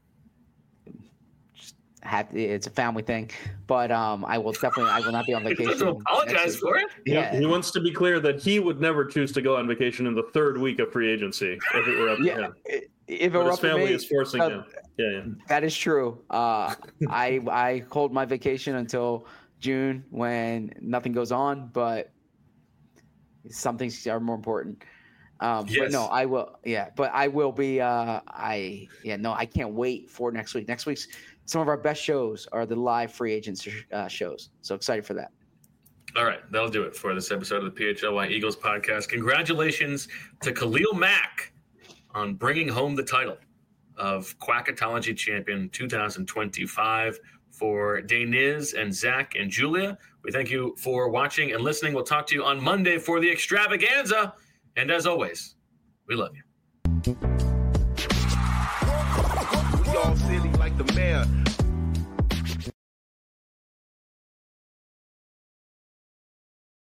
just have it's a family thing, but um, I will definitely I will not be on You don't vacation. have to apologize next week. for it. He- Yeah, He wants to be clear that he would never choose to go on vacation in the third week of free agency if it were up to yeah. him. i- If it But were his up to family me, is forcing uh, him. Yeah, yeah. that is true. Uh, I I hold my vacation until June when nothing goes on, but some things are more important. Um, But Yes. no, I will. Yeah, but I will be. Uh, I yeah, no, I can't wait for next week. Next week's some of our best shows are the live free agents uh, shows. So excited for that. All right, that'll do it for this episode of the P H L Y Eagles podcast. Congratulations to Khalil Mack on bringing home the title of Quackatology Champion twenty twenty-five. For Daniz and Zach and Julia, we thank you for watching and listening. We'll talk to you on Monday for the extravaganza. And as always, we love you. We all silly like the mayor.